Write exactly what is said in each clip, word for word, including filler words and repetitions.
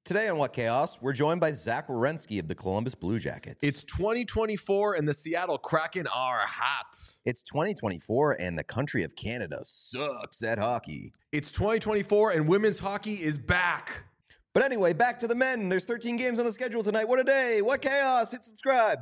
Today on What Chaos, we're joined by Zach Werenski of the Columbus Blue Jackets. It's twenty twenty-four and the Seattle Kraken are hot. It's twenty twenty-four and the country of Canada sucks at hockey. It's twenty twenty-four and women's hockey is back. But anyway, back to the men. There's thirteen games on the schedule tonight. What a day. What Chaos. Hit subscribe.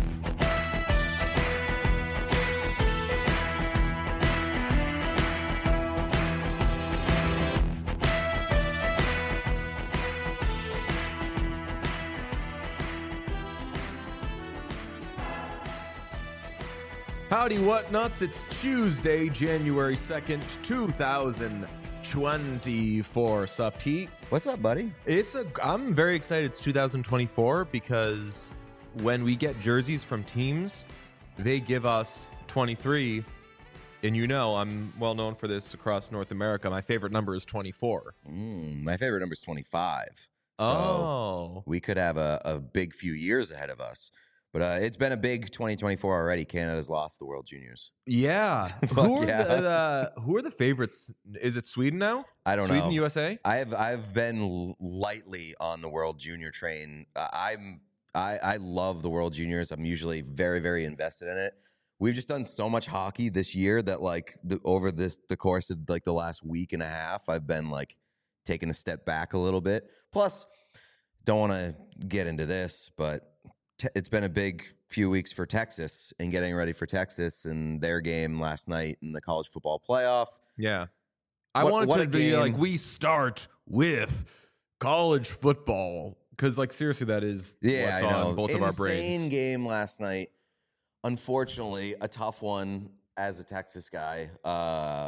Howdy, what nuts? It's Tuesday, January second, two thousand twenty-four. Sup, Pete? What's up, buddy? It's a. I'm very excited. It's two thousand twenty-four because when we get jerseys from teams, they give us twenty-three. And you know, I'm well known for this across North America. My favorite number is twenty-four. Mm, my favorite number is twenty-five. So Oh. we could have a, a big few years ahead of us. But uh, it's been a big twenty twenty-four already. Canada's lost the World Juniors. Yeah. Fuck who, are yeah. The, uh, who are the favorites? Is it Sweden now? I don't Sweden, know. U S A? I've I've been l- lightly on the World Junior train. Uh, I'm I I love the World Juniors. I'm usually very very invested in it. We've just done so much hockey this year that like the, over this the course of like the last week and a half, I've been like taking a step back a little bit. Plus, don't want to get into this, but te- it's been a big few weeks for Texas and getting ready for Texas and their game last night in the college football playoff. Yeah. I What- wanted what to a be game. like, we start with college football. Because, like, seriously, that is Yeah, what's I know. on both Insane of our brains. game last night. Unfortunately, a tough one as a Texas guy. Uh,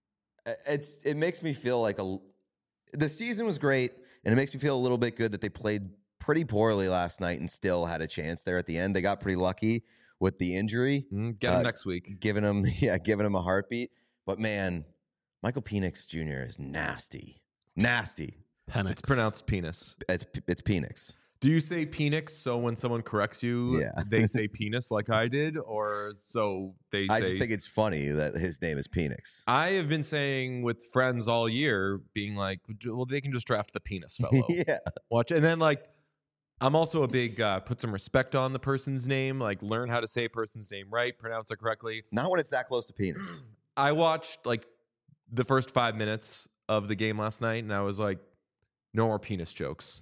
it's it makes me feel like a. The season was great, and it makes me feel a little bit good that they played pretty poorly last night and still had a chance there at the end. They got pretty lucky with the injury, Mm, Get them Uh, next week. giving them yeah, giving them a heartbeat. But man, Michael Penix Junior is nasty, nasty. It's pronounced penis. It's it's Penix. Do you say penix so when someone corrects you, Yeah. they say penis like I did? Or so they say. I just think it's funny that his name is Penix. I have been saying with friends all year, being like, well, they can just draft the penis fellow. yeah. Watch. And then, like, I'm also a big uh, put some respect on the person's name, like, learn how to say a person's name right, pronounce it correctly. Not when it's that close to penis. I watched, like, the first five minutes of the game last night, and I was like, no more penis jokes.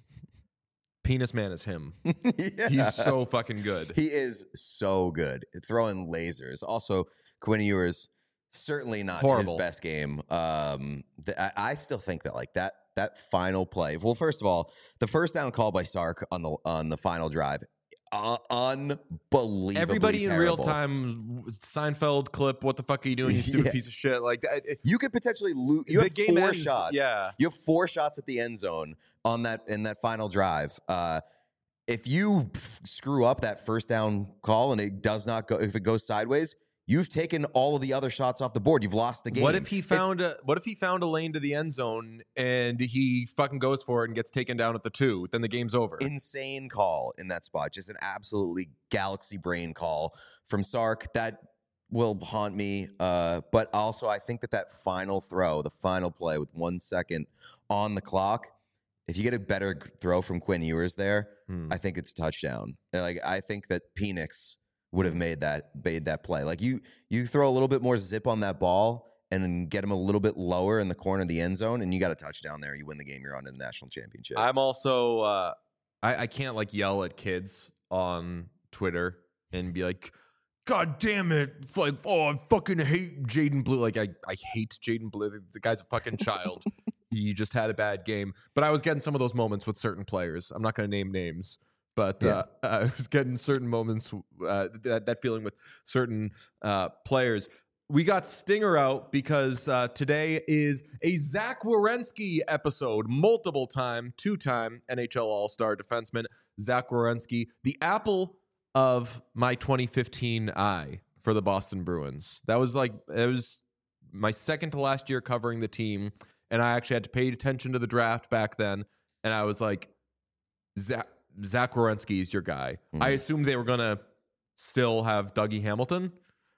Penis man is him. yeah. He's so fucking good. He is so good. Throwing lasers. Also, Quinn Ewers, certainly not Horrible. his best game. Um, th- I, I still think that like that that final play. Well, first of all, the first down call by Sark on the on the final drive, uh, unbelievably Everybody in real terrible. time, Seinfeld clip, what the fuck are you doing, you stupid Yeah. piece of shit? Like, it, You could potentially lose. You The have game four ends- shots. yeah. You have four shots at the end zone on that in that final drive. Uh, if you f- screw up that first down call and it does not go, if it goes sideways, you've taken all of the other shots off the board. You've lost the game. What if he It's found a What if he found a lane to the end zone and he fucking goes for it and gets taken down at the two? Then the game's over. insane call in that spot? Just an absolutely galaxy brain call from Sark that will haunt me. Uh, but also, I think that that final throw, the final play with one second on the clock, if you get a better g- throw from Quinn Ewers there, Hmm. I think it's a touchdown. Like I think that Penix would have made that made that play. Like you you throw a little bit more zip on that ball and then get him a little bit lower in the corner of the end zone, and you got a touchdown there. You win the game. You're on to the national championship. I'm also uh, I, I can't like yell at kids on Twitter and be like, God damn it. Like, oh, I fucking hate Jaden Blue. Like, I, I hate Jaden Blue. The, the guy's a fucking child. He just had a bad game. But I was getting some of those moments with certain players. I'm not going to name names. But Yeah. uh, I was getting certain moments, uh, that, that feeling with certain uh, players. We got Stinger out because uh, today is a Zach Werenski episode, multiple time, two-time N H L All-Star defenseman Zach Werenski, the apple of my twenty fifteen eye for the Boston Bruins. That was like, it was my second to last year covering the team, and I actually had to pay attention to the draft back then, and I was like, Zach, Zach Werenski is your guy. Mhm. I assumed they were going to still have Dougie Hamilton,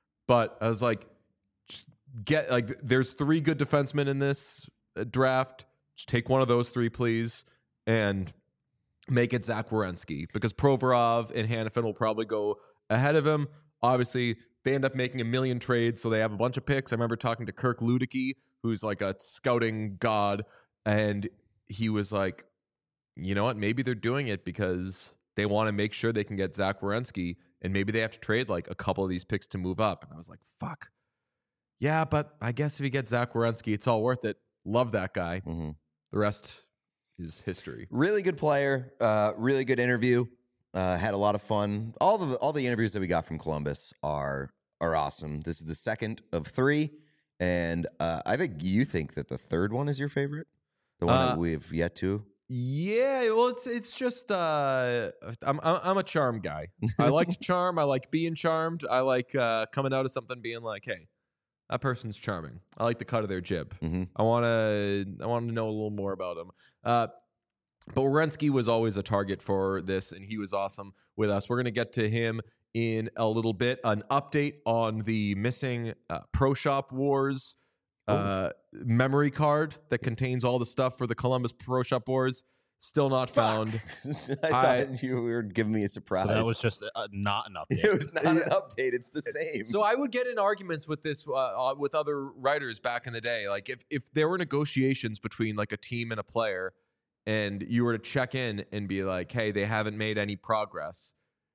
but I was like, just get like, there's three good defensemen in this uh, draft. Just take one of those three, please. and make it Zach Werenski, because Provorov and Hanifin will probably go ahead of him. Obviously, they end up making a million trades, so they have a bunch of picks. I remember talking to Kirk Luedecke, who's like a scouting god, and he was like, you know what, maybe they're doing it because they want to make sure they can get Zach Werenski, and maybe they have to trade like a couple of these picks to move up. And I was like, fuck. Yeah, but I guess if you get Zach Werenski, it's all worth it. Love that guy. Mm-hmm. The rest is history. Really good player. Uh, really good interview. Uh, had a lot of fun. All the all the interviews that we got from Columbus are are awesome. This is the second of three, and uh, I think you think that the third one is your favorite, the one Uh, that we've yet to. Yeah, well, it's it's just uh, I'm I'm I'm a charm guy. I like to charm. I like being charmed. I like uh, coming out of something being like, hey, that person's charming. I like the cut of their jib. Mm-hmm. I want to I want to know a little more about him. Uh, but Werenski was always a target for this, and he was awesome with us. We're gonna get to him in a little bit. An update on the missing uh, Pro Shop Wars uh, memory card that contains all the stuff for the Columbus Pro Shop Wars. Still not found. I thought I- you were giving me a surprise. So that was just uh, not an update. It was not an update. It's the same. So I would get in arguments with this uh, uh, with other writers back in the day. Like if if there were negotiations between like a team and a player, and you were to check in and be like, "Hey, they haven't made any progress,"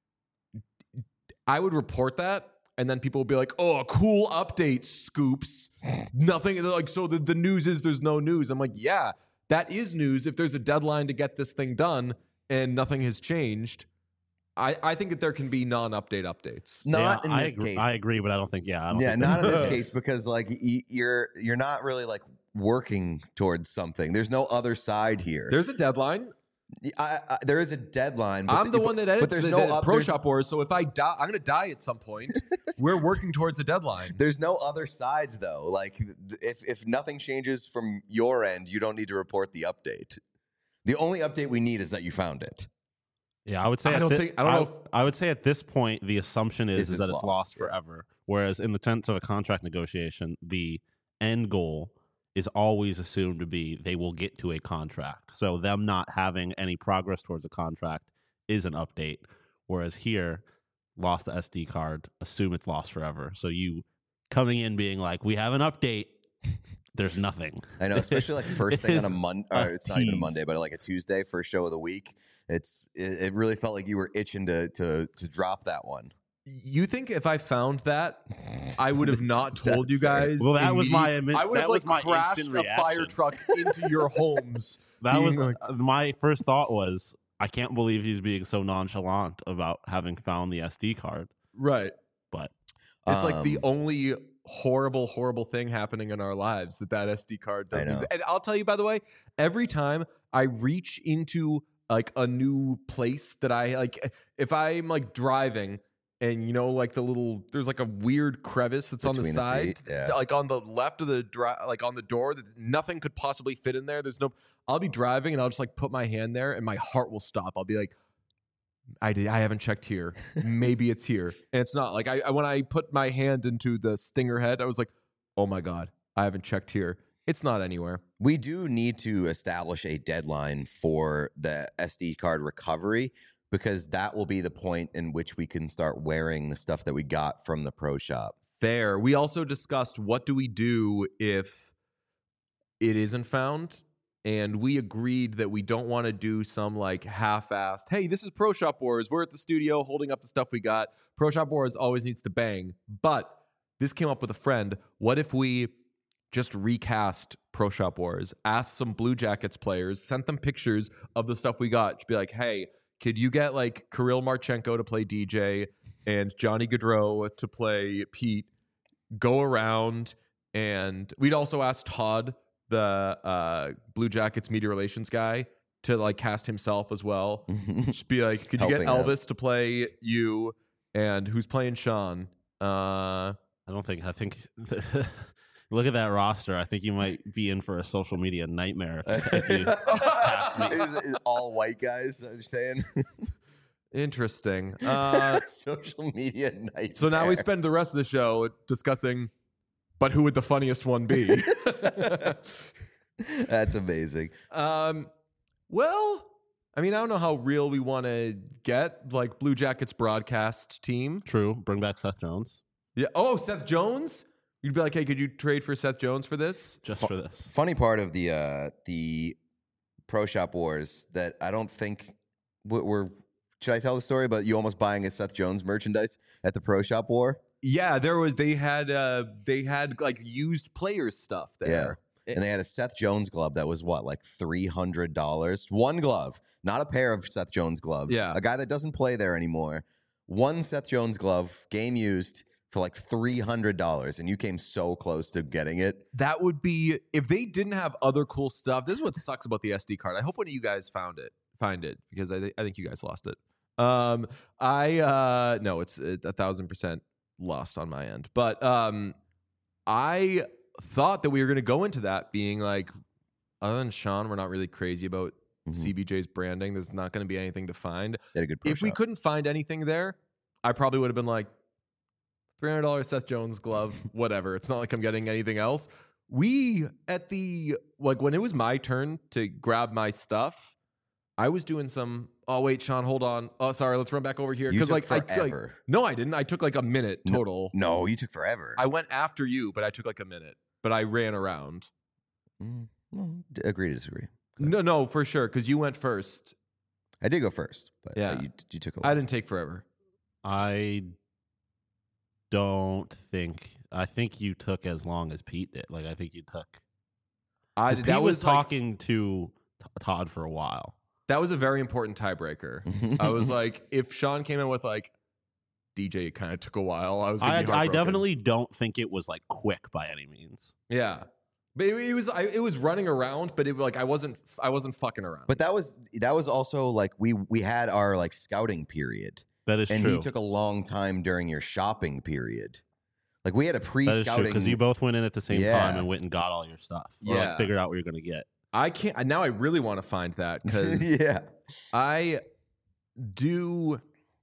I would report that, and then people would be like, "Oh, a cool update, Scoops." Nothing. They're like, so the, the news is there's no news. I'm like, yeah, that is news. If there's a deadline to get this thing done and nothing has changed, I, I think that there can be non-update updates. not Yeah, in I this agree, case. I agree, but I don't think. Yeah, I don't yeah, think not in this that- case because like y- you're you're not really like working towards something. There's no other side here. There's a deadline. I, I, there is a deadline. But I'm the but- one that edits but there's the, no the oth- Pro there's- Shop Wars, so if I die, I'm going to die at some point. We're working towards a deadline. There's no other side though. Like th- if if nothing changes from your end, you don't need to report the update. The only update we need is that you found it. Yeah, I would say. I at don't thi- think- I don't know if- I would say at this point, the assumption is, Is is it's that it's lost, lost yeah. forever. Whereas in the sense of a contract negotiation, the end goal is always assumed to be they will get to a contract. So them not having any progress towards a contract is an update. Whereas here, lost the S D card, assume it's lost forever. So you coming in being like, we have an update. There's nothing. I know, especially like first It thing is on a Monday, a or it's not even a tease. Monday, but like a Tuesday, first show of the week. It's it, it really felt like you were itching to to to drop that one. You think if I found that, I would have not told you That's fair. guys? Well, that was my immediate- admi- I would have that was like my crashed instant a fire reaction. truck into your homes. That being was like- uh, my first thought was, I can't believe he's being so nonchalant about having found the S D card. Right. But It's like the Um, only horrible, horrible thing happening in our lives that that S D card I does. know. use. And I'll tell you, by the way, every time I reach into like a new place that I like, if I'm like driving and you know, like the little, there's like a weird crevice that's on the Between the side, seat, yeah. like on the left of the drive, like on the door that nothing could possibly fit in there. There's no, I'll be driving and I'll just like put my hand there and my heart will stop. I'll be like, I did. I haven't checked here. Maybe it's here, and it's not. Like I, I when I put my hand into the stinger head, I was like, "Oh my god, I haven't checked here. It's not anywhere." We do need to establish a deadline for the S D card recovery because that will be the point in which we can start wearing the stuff that we got from the pro shop. Fair. We also discussed what do we do if it isn't found, and we agreed that we don't want to do some like half-assed. Hey, this is Pro Shop Wars. We're at the studio holding up the stuff we got. Pro Shop Wars always needs to bang, but this came up with a friend. What if we just recast Pro Shop Wars, asked some Blue Jackets players, sent them pictures of the stuff we got, just be like, hey, could you get like Kirill Marchenko to play D J and Johnny Gaudreau to play Pete, go around, and we'd also ask Todd, the uh, Blue Jackets media relations guy, to like cast himself as well. Just be like, could you get Helping out. Elvis to play you, and who's playing Sean? Uh, I don't think, I think, look at that roster. I think you might be in for a social media nightmare if, if you cast me. Is, is all white guys? Are you saying interesting. Uh, social media night? so now we spend the rest of the show discussing, but who would the funniest one be? That's amazing. Um, Well, I mean, I don't know how real we want to get, like Blue Jackets broadcast team. True. Bring back Seth Jones Yeah. Oh, Seth Jones? You'd be like, hey, could you trade for Seth Jones for this? just for this. Funny part of the uh, the Pro Shop Wars that I don't think we're, we're. Should I tell the story about you almost buying a Seth Jones merchandise at the Pro Shop War? Yeah, there was. They had. Uh, they had like used players stuff there. And they had a Seth Jones glove that was what, like three hundred dollars? One glove, not a pair of Seth Jones gloves. Yeah. A guy that doesn't play there anymore. One Seth Jones glove, game used, for like three hundred dollars. And you came so close to getting it. That would be if they didn't have other cool stuff. This is what sucks about the S D card. I hope one of you guys found it, find it, because I, th- I think you guys lost it. Um, I uh, no, it's a thousand percent lost on my end. But um, I thought that we were going to go into that being like, other than Sean, we're not really crazy about Mhm. C B J's branding. There's not going to be anything to find. They had a good Pro If we Shop. couldn't find anything there, I probably would have been like, three hundred dollars Seth Jones glove, whatever. It's not like I'm getting anything else. We, at the, like when it was my turn to grab my stuff, I was doing some, oh, wait, Sean, hold on. Oh, sorry, let's run back over here. You took like, I, like, forever. no, I didn't. I took like a minute No, total. No, you took forever. I went after you, but I took like a minute. But I ran around. Mm, well, d- agree to disagree. No, no, for sure, because you went first. I did go first, but Yeah. uh, you, you took a I lot. didn't take forever. I don't think. I think you took as long as Pete did. Like I think you took. I 'Cause that Pete was, was like, talking to T- Todd for a while. that was a very important tiebreaker. I was like, if Sean came in with like, D J kind of took a while. I was. Gonna I, be I heartbroken. definitely don't think it was like quick by any means. Yeah, but it, it was. I, it was running around, but it like I wasn't. I wasn't fucking around. But that was that was also like we we had our like scouting period, That is and true. he took a long time during your shopping period. Like we had a That is true pre-scouting because you both went in at the same Yeah. time and went and got all your stuff. Or Yeah. like figured out what you're going to get. I can't. Now I really want to find that because yeah. I do.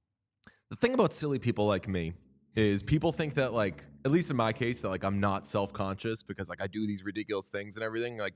The thing about silly people like me is people think that like, at least in my case, that like I'm not self-conscious because like I do these ridiculous things and everything. Like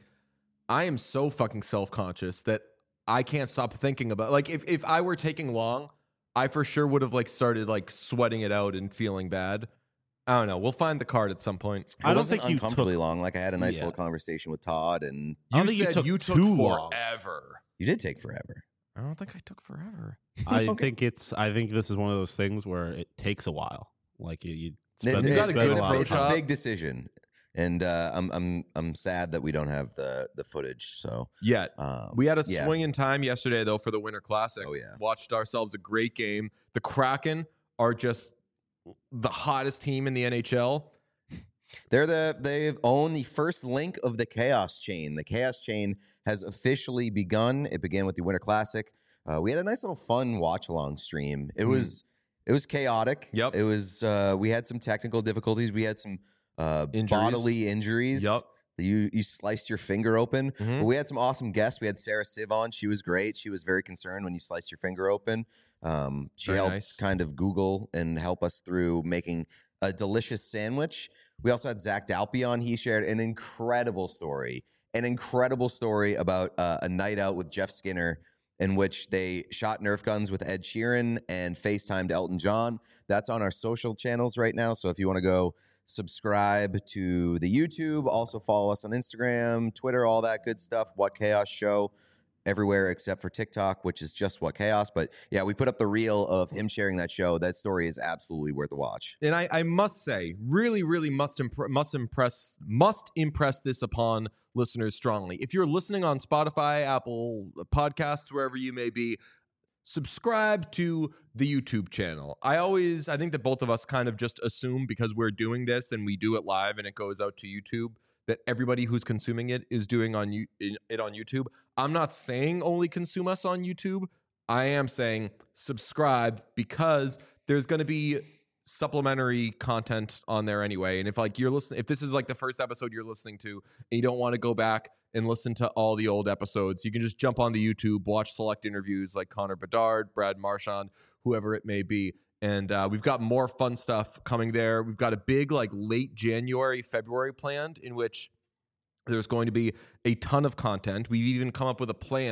I am so fucking self-conscious that I can't stop thinking about like if if I were taking long, I for sure would have like started like sweating it out and feeling bad. I don't know. We'll find the card at some point. It I don't wasn't think you uncomfortably took- long. Like I had a nice Yeah. little conversation with Todd, and I don't You think you said took you took too long. forever. you did take forever. I don't think I took forever. I Okay. think it's. I think this is one of those things where it takes a while. Like you, you It- spend, it- You got a it's, spend good a, a lot of it's a approach. time. big decision, and uh, I'm I'm I'm sad that we don't have the the footage. So Yet. um, We had a yeah. swing in time yesterday, though, for the Winter Classic. Oh, yeah. Watched ourselves a great game. The Kraken are just the hottest team in the N H L. They're the they own the first link of the Chaos Chain. The Chaos Chain has officially begun. It began with the Winter Classic. Uh, we had a nice little fun watch along stream. It Mhm. was it was chaotic. Yep. It was uh, we had some technical difficulties. We had some uh, Injuries. bodily injuries. Yep. You you sliced your finger open. Mhm. But we had some awesome guests. We had Sarah Siv on. She was great. She was very concerned when you sliced your finger open. Um, she Very helped nice. kind of Google and help us through making a delicious sandwich. We also had Zach Dalpy on. He shared an incredible story, an incredible story about uh, a night out with Jeff Skinner in which they shot Nerf guns with Ed Sheeran and FaceTimed Elton John. That's on our social channels right now. So if you want to go subscribe to the YouTube, also follow us on Instagram, Twitter, all that good stuff. What Chaos Show everywhere except for TikTok, which is just What Chaos. But yeah, we put up the reel of him sharing that show. That story is absolutely worth a watch. And I, I must say, really, really must impre- must impress must impress this upon listeners strongly. If you're listening on Spotify, Apple Podcasts, wherever you may be, subscribe to the YouTube channel. I always, I think that both of us kind of just assume because we're doing this and we do it live and it goes out to YouTube that everybody who's consuming it is doing on you it on YouTube. I'm not saying only consume us on YouTube. I am saying subscribe because there's going to be supplementary content on there anyway. And if like you're listening, if this is like the first episode you're listening to and you don't want to go back and listen to all the old episodes, you can just jump on the YouTube, watch select interviews like Connor Bedard, Brad Marchand, whoever it may be. And uh, we've got more fun stuff coming there. We've got a big like late January, February planned in which there's going to be a ton of content. We've even come up with a plan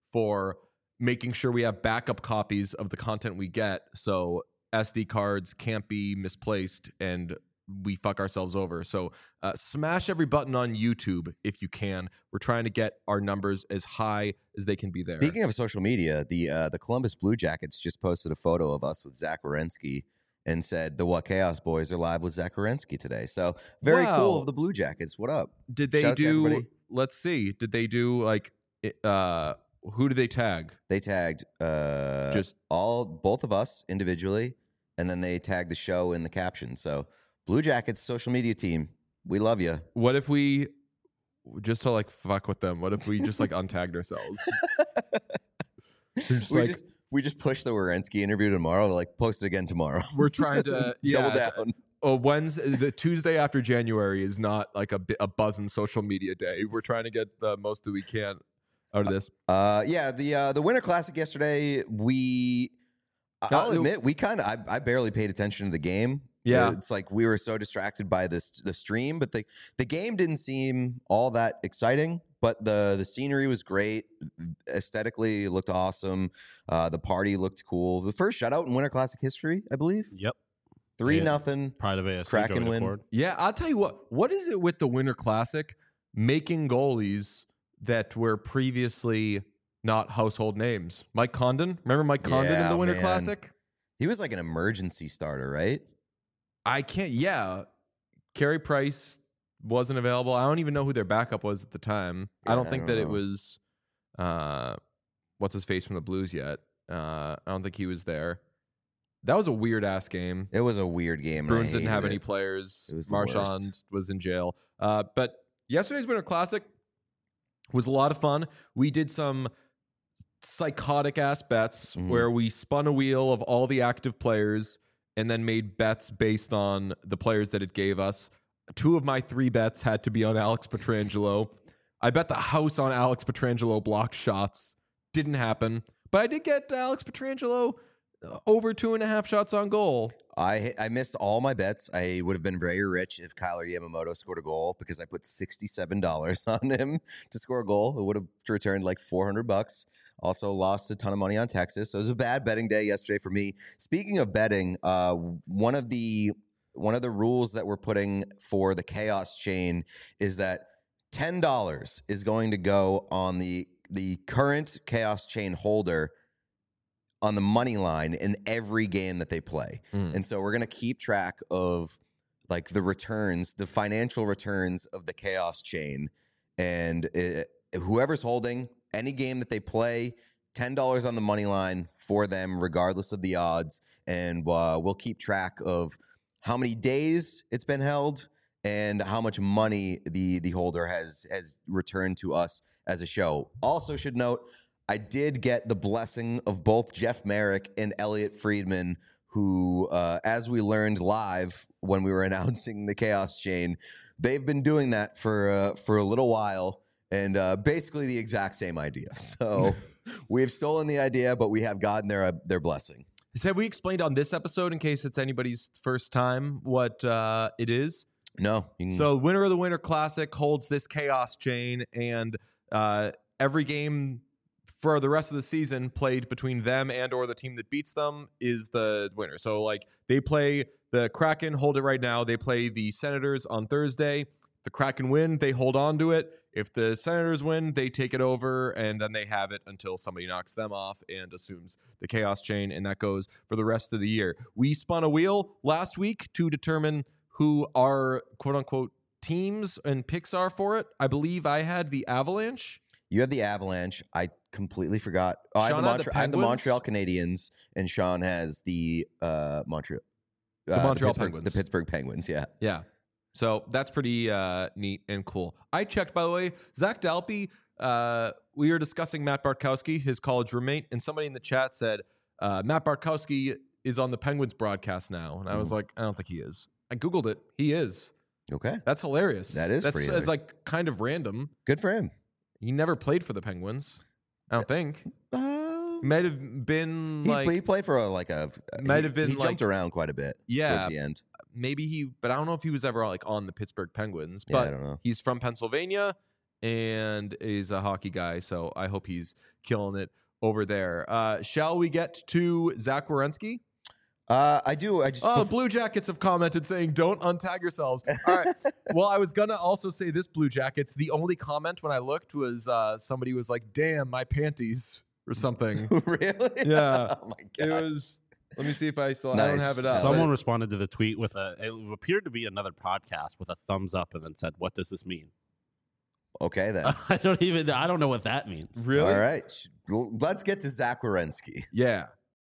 for making sure we have backup copies of the content we get, so S D cards can't be misplaced and we fuck ourselves over. So uh, smash every button on YouTube if you can. We're trying to get our numbers as high as they can be there. Speaking of social media, the uh, the Columbus Blue Jackets just posted a photo of us with Zach Werenski and said the What Chaos Boys are live with Zach Werenski today. So very Wow. cool of the Blue Jackets. What up? Did they Shout out to do, everybody. let's see, did they do like, it- uh, who did they tag? They tagged uh, Just all both of us individually, and then they tagged the show in the caption. So Blue Jackets social media team, we love you. what if we, just to like fuck with them, what if we just like untagged ourselves? Just we like, just we just push the Werenski interview tomorrow. Like post it again tomorrow. we're trying to yeah, Double down. Oh, Wednesday, the Tuesday after January is not like a, bi- a buzzing social media day. We're trying to get the most that we can out of this. Uh, yeah, the uh, the Winter Classic yesterday. We, I'll Uh, admit, we kind of I, I barely paid attention to the game. Yeah. It's like we were so distracted by this the stream, but the the game didn't seem all that exciting. But the the scenery was great, aesthetically it looked awesome. Uh, the party looked cool. The first shutout in Winter Classic history, I believe, Yep. three Yeah. nothing. Pride of A S C. Kraken Joey win. DeCord. Yeah, I'll tell you what. What is it with the Winter Classic making goalies that were previously not household names? Mike Condon. Remember Mike Condon in Yeah, the Winter man. Classic? He was like an emergency starter, right? I can't. Yeah, Carey Price wasn't available. I don't even know who their backup was at the time. I Yeah, don't I think don't that it know. was uh, what's his face from the Blues yet. Uh, I don't think he was there. That was a weird ass game. It was a weird game. and I Bruins didn't have hated any it. players. It was the Marchand worst. was in jail. Uh, but yesterday's Winter Classic was a lot of fun. We did some psychotic ass bets Mhm. where we spun a wheel of all the active players and then made bets based on the players that it gave us. Two of my three bets had to be on Alex Pietrangelo. I bet the house on Alex Pietrangelo blocked shots. Didn't happen. But I did get Alex Pietrangelo uh, over two and a half shots on goal. I I missed all my bets. I would have been very rich if Kyler Yamamoto scored a goal because I put sixty-seven dollars on him to score a goal. It would have returned like four hundred bucks. Also lost a ton of money on Texas. So it was a bad betting day yesterday for me. Speaking of betting, uh, one of the one of the rules that we're putting for the Chaos Chain is that ten dollars is going to go on the the current Chaos Chain holder on the money line in every game that they play. Mm. And so we're going to keep track of like the returns, the financial returns of the Chaos Chain. And it, whoever's holding any game that they play, ten dollars on the money line for them, regardless of the odds. And uh, we'll keep track of how many days it's been held and how much money the the holder has has returned to us as a show. Also should note, I did get the blessing of both Jeff Merrick and Elliot Friedman, who, uh, as we learned live when we were announcing the Chaos Chain, they've been doing that for uh, for a little while, and uh, basically the exact same idea. So we've stolen the idea, but we have gotten their uh, their blessing. Have we explained on this episode, in case it's anybody's first time, what uh, it is? No, you can, So, winner of the Winter Classic holds this Chaos Chain, and uh, every game for the rest of the season played between them and or the team that beats them is the winner. So, like, they play the Kraken, hold it right now. They play the Senators on Thursday. If the Kraken win, they hold on to it. If the Senators win, they take it over, and then they have it until somebody knocks them off and assumes the Chaos Chain, and that goes for the rest of the year. We spun a wheel last week to determine who our quote-unquote teams and picks are for it. I believe I had the Avalanche. you have the Avalanche. I completely forgot. Oh, I, have Sean the had the Montre- I have the Penguins? Montreal Canadiens, and Sean has the uh, Montreal. The Montreal Pittsburgh, Penguins. The Pittsburgh Penguins, yeah. Yeah. So that's pretty uh, neat and cool. I checked, by the way, Zach Dalpy, uh, we were discussing Matt Bartkowski, his college roommate, and somebody in the chat said, uh, Matt Bartkowski is on the Penguins broadcast now. And I was Mhm. like, I don't think he is. I Googled it. He is. Okay. That's hilarious. That is That's pretty It's like kind of random. Good for him. He never played for the Penguins. I don't think. Uh, Might have been he, like, he played for a, like a. Might he, have been He jumped like- around quite a bit yeah, towards the end. maybe he, but I don't know if he was ever like on the Pittsburgh Penguins. Yeah, I But don't know. he's from Pennsylvania, and is a hockey guy. So I hope he's killing it over there. Uh, shall we get to Zach Werenski? Uh, I do. I just. Oh, bef- Blue Jackets have commented saying, don't untag yourselves. All right. Well, I was going to also say this, Blue Jackets. The only comment when I looked was uh, somebody was like, damn, my panties or something. Really? Yeah. Oh, my It God. was, let me see if I still I don't Nice. have it up. Someone responded to the tweet with a, it appeared to be another podcast with a thumbs up and then said, what does this mean? Okay, then. I don't even, I don't know what that means. Really? All right. Sh- Let's get to Zach Werenski. Yeah.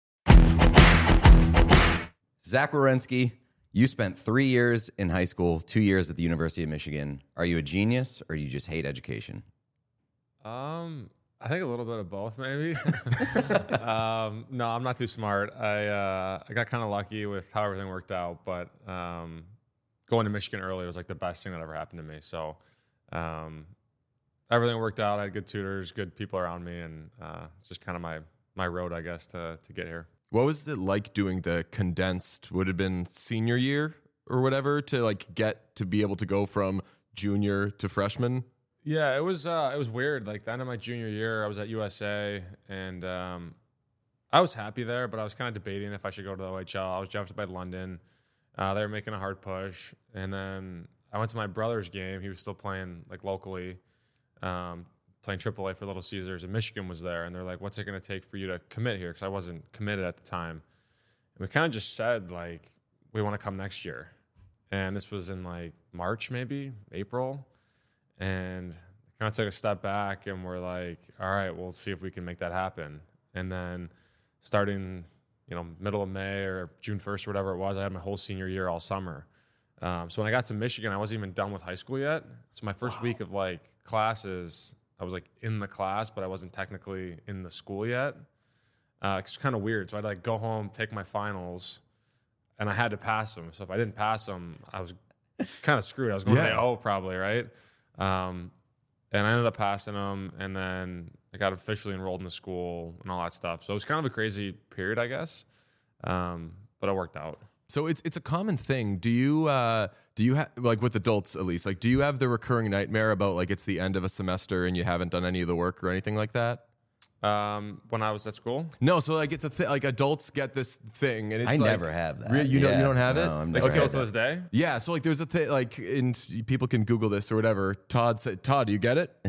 Zach Werenski, you spent three years in high school, two years at the University of Michigan. Are you a genius or you just hate education? Um, I think a little bit of both, maybe. um, no, I'm not too smart. I uh, I got kind of lucky with how everything worked out, but um, going to Michigan early was like the best thing that ever happened to me. So um, everything worked out. I had good tutors, good people around me, and uh, it's just kind of my my road, I guess, to to get here. What was it like doing the condensed, would have been senior year or whatever, to like get to be able to go from junior to freshman? Yeah, it was uh, it was weird. Like the end of my junior year, I was at U S A, and um, I was happy there, but I was kind of debating if I should go to the O H L. I was drafted by London. Uh, they were making a hard push, and then I went to my brother's game. He was still playing like locally, um, playing triple A for Little Caesars, and Michigan was there. And they're like, "What's it going to take for you to commit here?" Because I wasn't committed at the time. And we kind of just said like, "We want to come next year," and this was in like March, maybe April. And kind of took a step back and we're like, all right, we'll see if we can make that happen. And then starting, you know, middle of May or June first or whatever it was, I had my whole senior year all summer. Um, so when I got to Michigan, I wasn't even done with high school yet. So my first wow. week of like classes, I was like in the class, but I wasn't technically in the school yet. Uh, it's kind of weird. So I'd like go home, take my finals, and I had to pass them. So if I didn't pass them, I was kind of screwed. I was going yeah. to the O probably, right? Um, and I ended up passing them, and then I got officially enrolled in the school and all that stuff. So it was kind of a crazy period, I guess, um, but it worked out. So it's it's a common thing. Do you uh, do you have like with adults at least? Like, do you have the recurring nightmare about like it's the end of a semester and you haven't done any of the work or anything like that? Um, when I was at school? No, so like it's a thing. Like adults get this thing, and it's I like, never have that. Re- you yeah. don't you don't have no, it? I'm like never still had to that. this day? Yeah. So like there's a thing like, and people can Google this or whatever. Todd said, Todd, do you get it?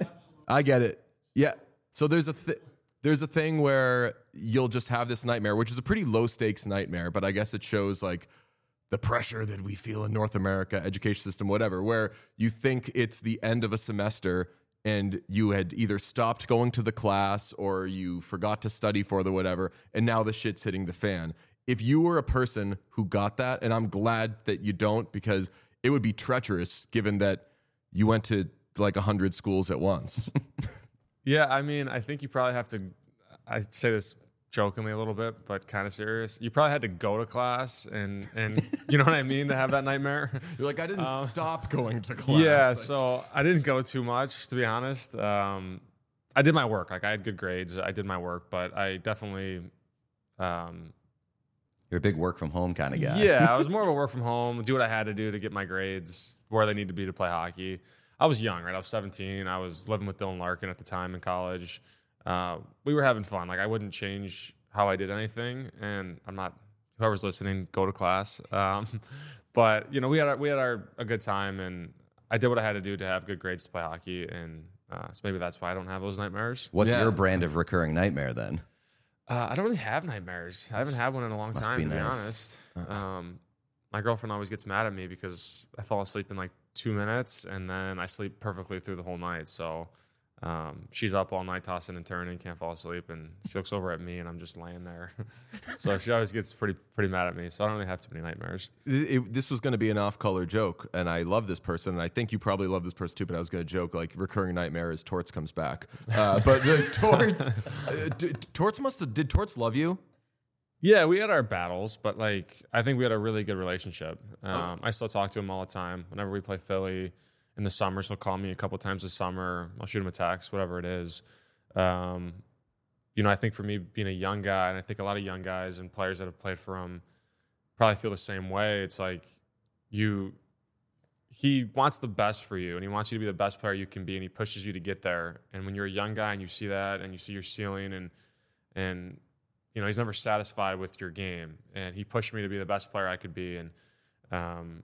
I get it. Yeah. So there's a th- there's a thing where you'll just have this nightmare, which is a pretty low stakes nightmare, but I guess it shows like the pressure that we feel in North America, education system, whatever, where you think it's the end of a semester and you had either stopped going to the class or you forgot to study for the whatever, and now the shit's hitting the fan. If you were a person who got that, and I'm glad that you don't, because it would be treacherous given that you went to like a hundred schools at once. Yeah, I mean, I think you probably have to, I say this jokingly a little bit, but kind of serious. You probably had to go to class and, and you know what I mean, to have that nightmare. You're like, I didn't um, stop going to class. Yeah, like, so I didn't go too much, to be honest. Um, I did my work. Like, I had good grades. I did my work, but I definitely... Um, You're a big work from home kind of guy. Yeah, I was more of a work from home, do what I had to do to get my grades where they need to be to play hockey. I was young, right? I was seventeen. I was living with Dylan Larkin at the time in college. Uh, we were having fun. Like, I wouldn't change how I did anything, and I'm not, whoever's listening, go to class. Um, but, you know, we had our, we had our a good time, and I did what I had to do to have good grades to play hockey, and uh, so maybe that's why I don't have those nightmares. What's Yeah. your brand of recurring nightmare then? Uh, I don't really have nightmares. I haven't had one in a long Must time, be to be nice. honest. Um, my girlfriend always gets mad at me because I fall asleep in like two minutes and then I sleep perfectly through the whole night. So um, she's up all night tossing and turning, can't fall asleep, and she looks over at me and I'm just laying there. So she always gets pretty pretty mad at me. So I don't really have too many nightmares. It, it, this was going to be an off-color joke, and I love this person, and I think you probably love this person too, but I was going to joke, like, recurring nightmare is Torts comes back. Uh, but the Torts, uh, d- Torts must have, did Torts love you? Yeah, we had our battles, but like I think we had a really good relationship. Um, I still talk to him all the time. Whenever we play Philly in the summers, he'll call me a couple times this summer. I'll shoot him a text, whatever it is. Um, you know, I think for me being a young guy, and I think a lot of young guys and players that have played for him probably feel the same way. It's like you he wants the best for you, and he wants you to be the best player you can be, and he pushes you to get there. And when you're a young guy and you see that, and you see your ceiling, and and you know he's never satisfied with your game, and he pushed me to be the best player I could be, and um,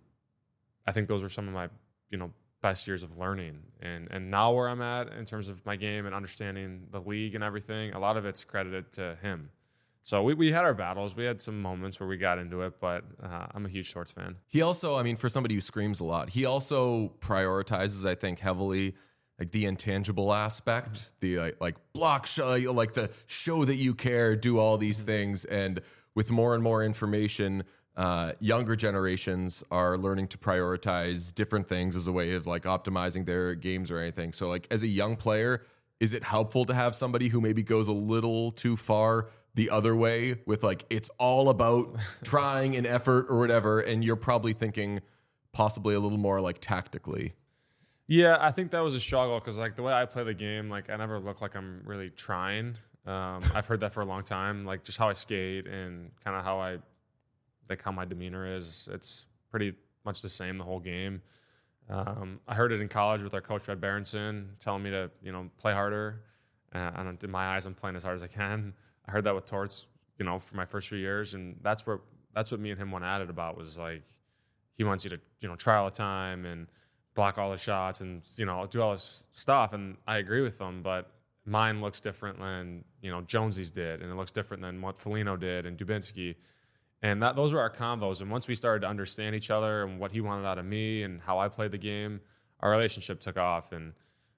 I think those were some of my you know best years of learning. And and now where I'm at in terms of my game and understanding the league and everything, a lot of it's credited to him. So we, we had our battles. We had some moments where we got into it, but uh, I'm a huge Torts fan. He also, I mean, for somebody who screams a lot, he also prioritizes, I think, heavily like the intangible aspect, the like, like block show, like the show that you care, do all these things. And with more and more information, uh, younger generations are learning to prioritize different things as a way of like optimizing their games or anything. So like as a young player, is it helpful to have somebody who maybe goes a little too far the other way with like, it's all about trying and effort or whatever, and you're probably thinking possibly a little more like tactically? Yeah, I think that was a struggle because like the way I play the game, like I never look like I'm really trying. Um, I've heard that for a long time, like just how I skate and kind of how I, like how my demeanor is. It's pretty much the same the whole game. Um, I heard it in college with our coach, Red Berenson, telling me to, you know, play harder. Uh, and in my eyes, I'm playing as hard as I can. I heard that with Torts, you know, for my first few years, and that's where that's what me and him went at it about, was like he wants you to, you know, try all the time and block all the shots and, you know, do all this stuff. And I agree with them, but mine looks different than, you know, Jonesy's did, and it looks different than what Foligno did and Dubinsky. And that those were our combos. And once we started to understand each other and what he wanted out of me and how I played the game, our relationship took off. And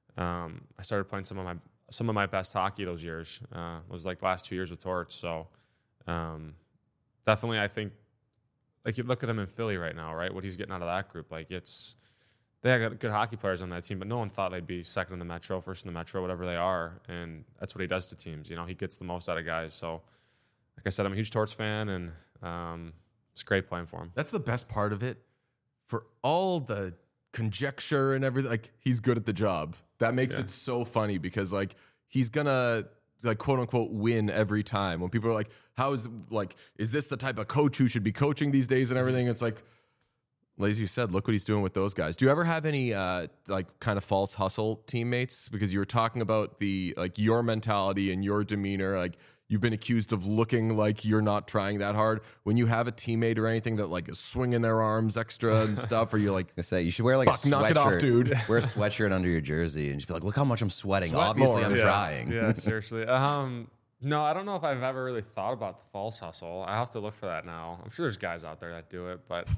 um, I started playing some of my some of my best hockey those years. Uh, it was like the last two years with Torts. So um, definitely, I think, like you look at him in Philly right now, right? What he's getting out of that group, like it's they got good hockey players on that team, but no one thought they'd be second in the Metro, first in the Metro, whatever they are. And that's what he does to teams. You know, he gets the most out of guys. So, like I said, I'm a huge Torts fan, and um, it's great playing for him. That's the best part of it. For all the conjecture and everything, like he's good at the job. That makes Yeah. it so funny because like he's gonna like quote unquote win every time. When people are like, how is like is this the type of coach who should be coaching these days and everything? It's like, as you said, look what he's doing with those guys. Do you ever have any uh, like kind of false hustle teammates? Because you were talking about the like your mentality and your demeanor. Like you've been accused of looking like you're not trying that hard. When you have a teammate or anything that like is swinging their arms extra and stuff, or you're like, I say you should wear like fuck, a knock it off, sweatshirt, dude. Wear a sweatshirt under your jersey and just be like, look how much I'm sweating. Sweat Obviously, more. I'm yeah. trying. Yeah, seriously. Um, no, I don't know if I've ever really thought about the false hustle. I have to look for that now. I'm sure there's guys out there that do it, but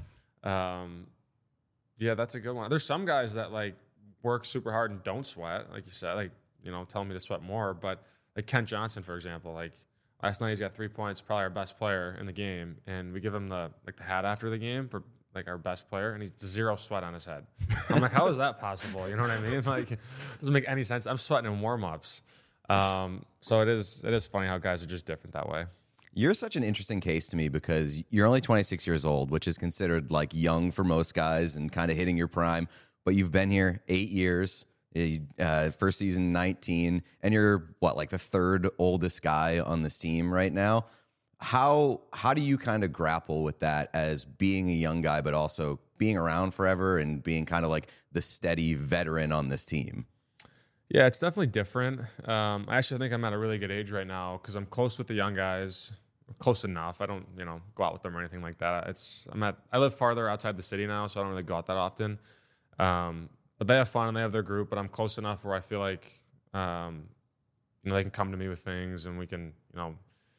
um, yeah, that's a good one. There's some guys that like work super hard and don't sweat, like you said, like, you know, telling me to sweat more. But like Kent Johnson, for example, like last night he's got three points, probably our best player in the game, and we give him the like the hat after the game for like our best player, and he's zero sweat on his head. I'm like, how is that possible? You know what I mean? Like, it doesn't make any sense. I'm sweating in warm-ups. Um, so it is it is funny how guys are just different that way. You're such an interesting case to me because you're only twenty-six years old, which is considered like young for most guys and kind of hitting your prime. But you've been here eight years, uh, first season nineteen, and you're what, like the third oldest guy on this team right now. How how do you kind of grapple with that as being a young guy, but also being around forever and being kind of like the steady veteran on this team? Yeah, it's definitely different. Um, I actually think I'm at a really good age right now because I'm close with the young guys, close enough. I don't, you know, go out with them or anything like that. It's I'm at I live farther outside the city now, so I don't really go out that often. Um, but they have fun and they have their group. But I'm close enough where I feel like, um, you know, they can come to me with things and we can, you know,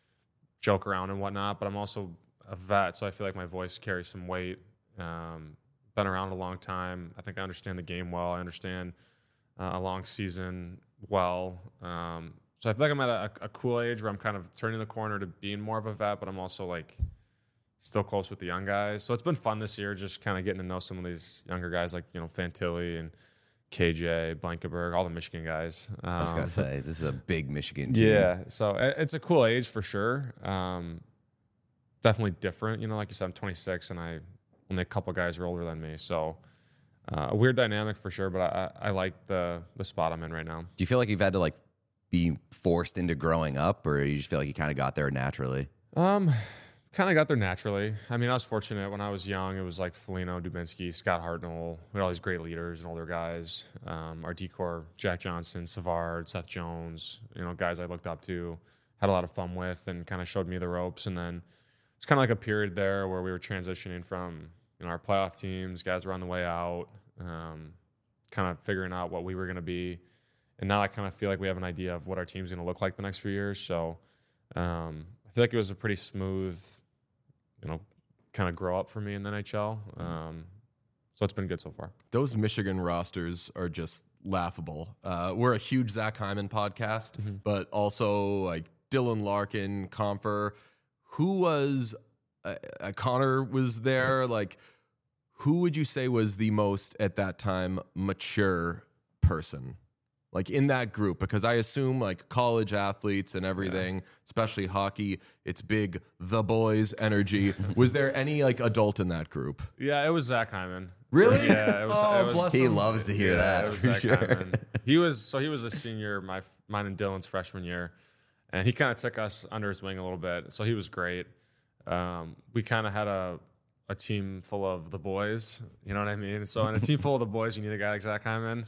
joke around and whatnot. But I'm also a vet, so I feel like my voice carries some weight. Um, been around a long time. I think I understand the game well. I understand Uh, a long season well. Um, so I feel like I'm at a, a cool age where I'm kind of turning the corner to being more of a vet, but I'm also like still close with the young guys. So it's been fun this year, just kind of getting to know some of these younger guys like, you know, Fantilli and K J, Blankenberg, all the Michigan guys. Um, I was going to say, this is a big Michigan team. yeah. So it, it's a cool age for sure. Um, definitely different. You know, like you said, I'm twenty-six and I only a couple guys are older than me. So Uh, a weird dynamic for sure, but I, I like the the spot I'm in right now. Do you feel like you've had to like be forced into growing up, or you just feel like you kind of got there naturally? Um, kind of got there naturally. I mean, I was fortunate when I was young. It was like Foligno, Dubinsky, Scott Hartnell. We had all these great leaders and older guys. Um, our D-Corps, Jack Johnson, Savard, Seth Jones, you know, guys I looked up to, had a lot of fun with, and kind of showed me the ropes. And then it's kind of like a period there where we were transitioning from, you know, our playoff teams, guys were on the way out, um, kind of figuring out what we were going to be. And now I kind of feel like we have an idea of what our team's going to look like the next few years. So um, I feel like it was a pretty smooth, you know, kind of grow up for me in the N H L. Um, so it's been good so far. Those Michigan rosters are just laughable. Uh, we're a huge Zach Hyman podcast, mm-hmm. but also like Dylan Larkin, Compher. Who was uh, uh, Connor was there? Like, who would you say was the most at that time mature person? Like in that group, because I assume like college athletes and everything, yeah. especially hockey, it's big, the boys energy. Was there any like adult in that group? Yeah, it was Zach Hyman. Really? Yeah, it was. Oh, it was bless he him. Loves to hear yeah, that. It was for Zach sure. Hyman. He was so he was a senior, my mine and Dylan's freshman year, and he kind of took us under his wing a little bit. So he was great. Um, we kind of had a a team full of the boys. You know what I mean? So in a team full of the boys, you need a guy like Zach Hyman.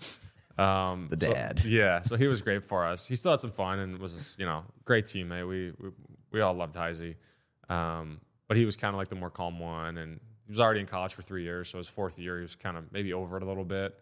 Um, the dad. So, yeah, so he was great for us. He still had some fun and was, you know, great teammate. We we, we all loved Heisey. Um, but he was kind of like the more calm one, and he was already in college for three years, so his fourth year he was kind of maybe over it a little bit.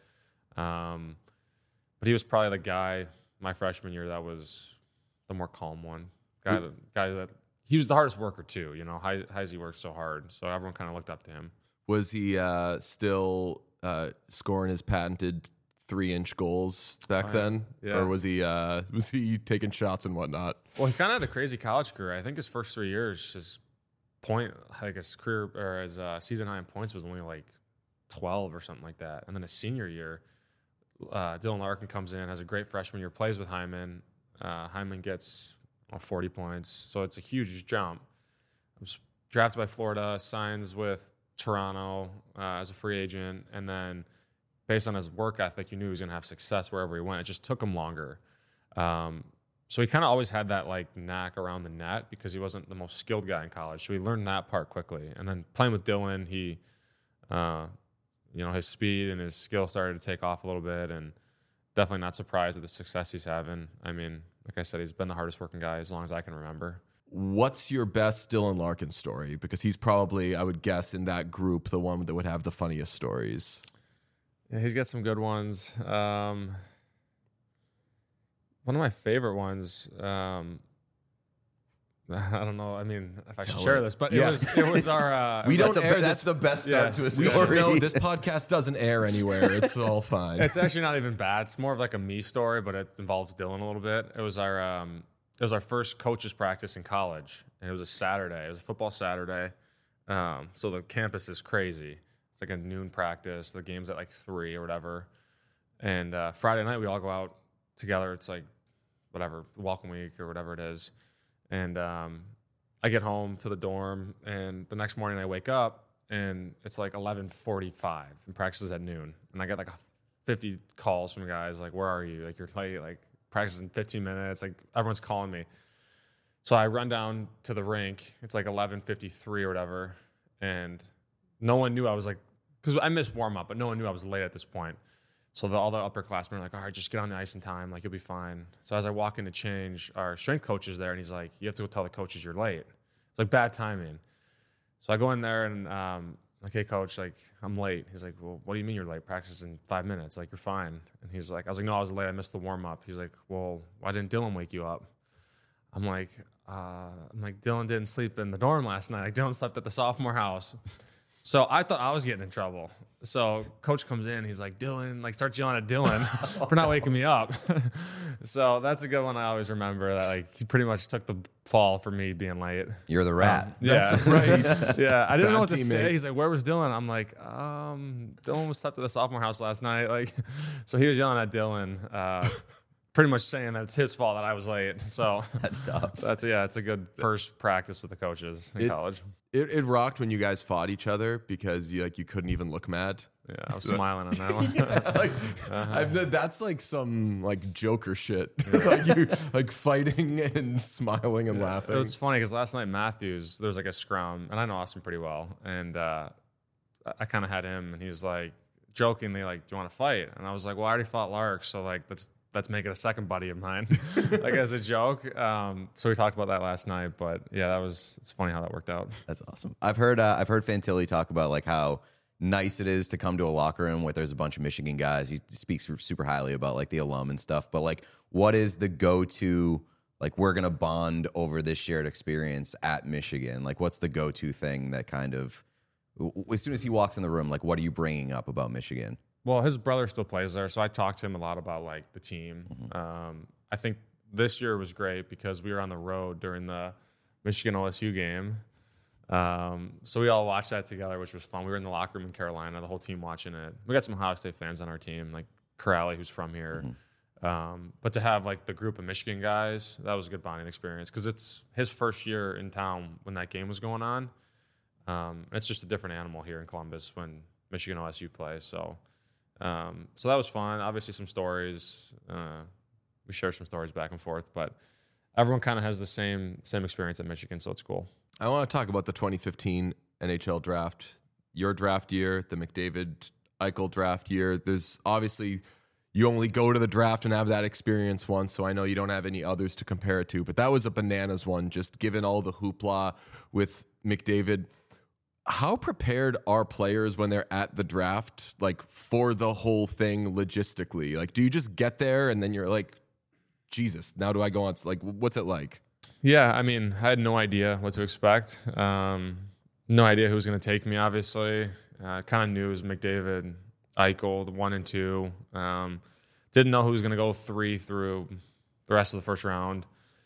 Um, but he was probably the guy my freshman year that was the more calm one. Guy, that, guy that he was the hardest worker too. You know, Heisey worked so hard, so everyone kind of looked up to him. Was he uh, still uh, scoring his patented three-inch goals back oh, then, yeah. or was he uh, was he taking shots and whatnot? Well, he kind of had a crazy college career. I think his first three years, his point, like his career or his uh, season high in points was only like twelve or something like that. And then his senior year, uh, Dylan Larkin comes in, has a great freshman year, plays with Hyman. Uh, Hyman gets well, forty points, so it's a huge jump. Was drafted by Florida, signs with Toronto uh, as a free agent, and then based on his work ethic, you knew he was going to have success wherever he went. It just took him longer. Um, so he kind of always had that like knack around the net because he wasn't the most skilled guy in college. So he learned that part quickly. And then playing with Dylan, he, uh, you know, his speed and his skill started to take off a little bit, and definitely not surprised at the success he's having. I mean, like I said, he's been the hardest working guy as long as I can remember. What's your best Dylan Larkin story? Because he's probably, I would guess, in that group, the one that would have the funniest stories. Yeah, he's got some good ones. Um, one of my favorite ones. Um, I don't know. I mean, if I should Tell share it. this, but Yes. it was it was our. Uh, we don't that's, a, air that's this. the best start Yeah. to a We should story. know this podcast doesn't air anywhere. It's all fine. It's actually not even bad. It's more of like a me story, but it involves Dylan a little bit. It was our um, it was our first coaches practice in college, and it was a Saturday. It was a football Saturday, um, so the campus is crazy. It's like a noon practice. The game's at like three or whatever. And uh, Friday night, we all go out together. It's like whatever, welcome week or whatever it is. And um, I get home to the dorm, and the next morning I wake up, and it's like eleven forty-five, and practice is at noon. And I get like fifty calls from guys like, where are you? Like, you're late. Like, practice in fifteen minutes. Like, everyone's calling me. So I run down to the rink. It's like eleven fifty-three or whatever. And no one knew I was like, because I missed warm up, but no one knew I was late at this point. So the, all the upperclassmen are like, all right, just get on the ice in time. Like, you'll be fine. So as I walk in to change, our strength coach is there, and he's like, you have to go tell the coaches you're late. It's like bad timing. So I go in there, and um, like, hey, coach, like, I'm late. He's like, well, what do you mean you're late? Practice in five minutes. Like, you're fine. And he's like, I was like, no, I was late. I missed the warm up. He's like, well, why didn't Dylan wake you up? I'm like, uh, I'm like, Dylan didn't sleep in the dorm last night. Like, Dylan slept at the sophomore house. So I thought I was getting in trouble. So coach comes in, he's like, Dylan, like, starts yelling at Dylan for not waking me up. So that's a good one I always remember, that like he pretty much took the fall for me being late. You're the rat. Um, yeah. That's right. Yeah. I didn't Bad know what to teammate. say. He's like, where was Dylan? I'm like, um, Dylan was slept at the sophomore house last night. Like, so he was yelling at Dylan, uh, pretty much saying that it's his fault that I was late. So That's tough. that's, yeah, it's a good first practice with the coaches in It- college. It, it rocked when you guys fought each other because you like you couldn't even look mad. Yeah, I was smiling on that one. Yeah, like Uh-huh. I've kn- that's like some like Joker shit. Like you like fighting and smiling and laughing. It was funny because last night Matthews, there was like a scrum, and I know Austin pretty well, and uh, I, I kind of had him, and he's like jokingly like, "Do you want to fight?" And I was like, "Well, I already fought Lark, so like let's let's make it a second buddy of mine," like as a joke. Um, so we talked about that last night, but yeah, that was it's funny how that worked out. That's awesome. I've heard uh, I've heard Fantilli talk about like how nice it is to come to a locker room where there's a bunch of Michigan guys. He speaks super highly about like the alum and stuff. But like, what is the go-to? Like, we're gonna bond over this shared experience at Michigan. Like, what's the go-to thing that kind of, as soon as he walks in the room, like, what are you bringing up about Michigan? Well, his brother still plays there, so I talked to him a lot about like the team. Mm-hmm. Um, I think this year was great because we were on the road during the Michigan O S U game. Um, so we all watched that together, which was fun. We were in the locker room in Carolina, the whole team watching it. We got some Ohio State fans on our team, like Corrali, who's from here. Mm-hmm. Um, but to have like the group of Michigan guys, that was a good bonding experience because it's his first year in town when that game was going on. Um, it's just a different animal here in Columbus when Michigan O S U plays. So, um, so that was fun. Obviously, some stories. Uh, we share some stories back and forth, but everyone kind of has the same same experience at Michigan, so it's cool. I want to talk about the twenty fifteen N H L draft, your draft year, the McDavid Eichel draft year. There's obviously, you only go to the draft and have that experience once, so I know you don't have any others to compare it to, but that was a bananas one, just given all the hoopla with McDavid. How prepared are players when they're at the draft, like for the whole thing logistically? Like, do you just get there and then you're like, Jesus, now do I go on? Like, what's it like? Yeah, I mean, I had no idea what to expect. Um, no idea who was going to take me, obviously. Uh, kind of knew it was McDavid, Eichel, the one and two. Um, didn't know who was going to go three through the rest of the first round.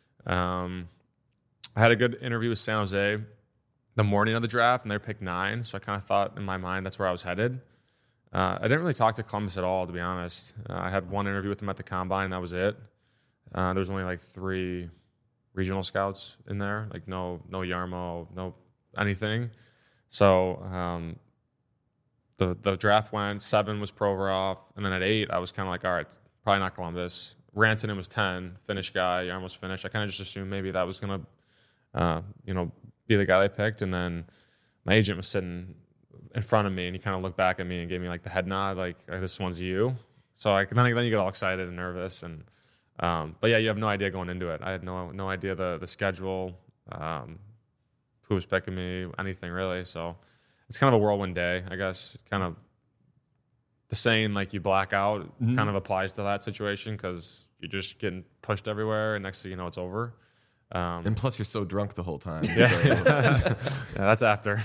Um, I had a good interview with San Jose the morning of the draft, and they picked nine, so I kind of thought in my mind that's where I was headed. Uh, I didn't really talk to Columbus at all, to be honest. Uh, I had one interview with them at the Combine, and that was it. Uh, there was only like three regional scouts in there, like no no Yarmo, no anything. So um, the the draft went, seven was Provorov, and then at eight, I was kind of like, all right, probably not Columbus. Rantanen was ten, Finnish guy, Yarmo was Finnish. I kind of just assumed maybe that was going to, uh, you know, be the guy they picked. And then my agent was sitting in front of me, and he kind of looked back at me and gave me like the head nod, like, this one's you. So I, then, then you get all excited and nervous. And Um, but yeah, you have no idea going into it. I had no no idea the the schedule, um, who was picking me, anything really. So it's kind of a whirlwind day, I guess. Kind of the saying like you black out Mm-hmm. kind of applies to that situation because you're just getting pushed everywhere, and next thing you know, it's over. Um, And plus, you're so drunk the whole time. yeah, So- yeah, that's after.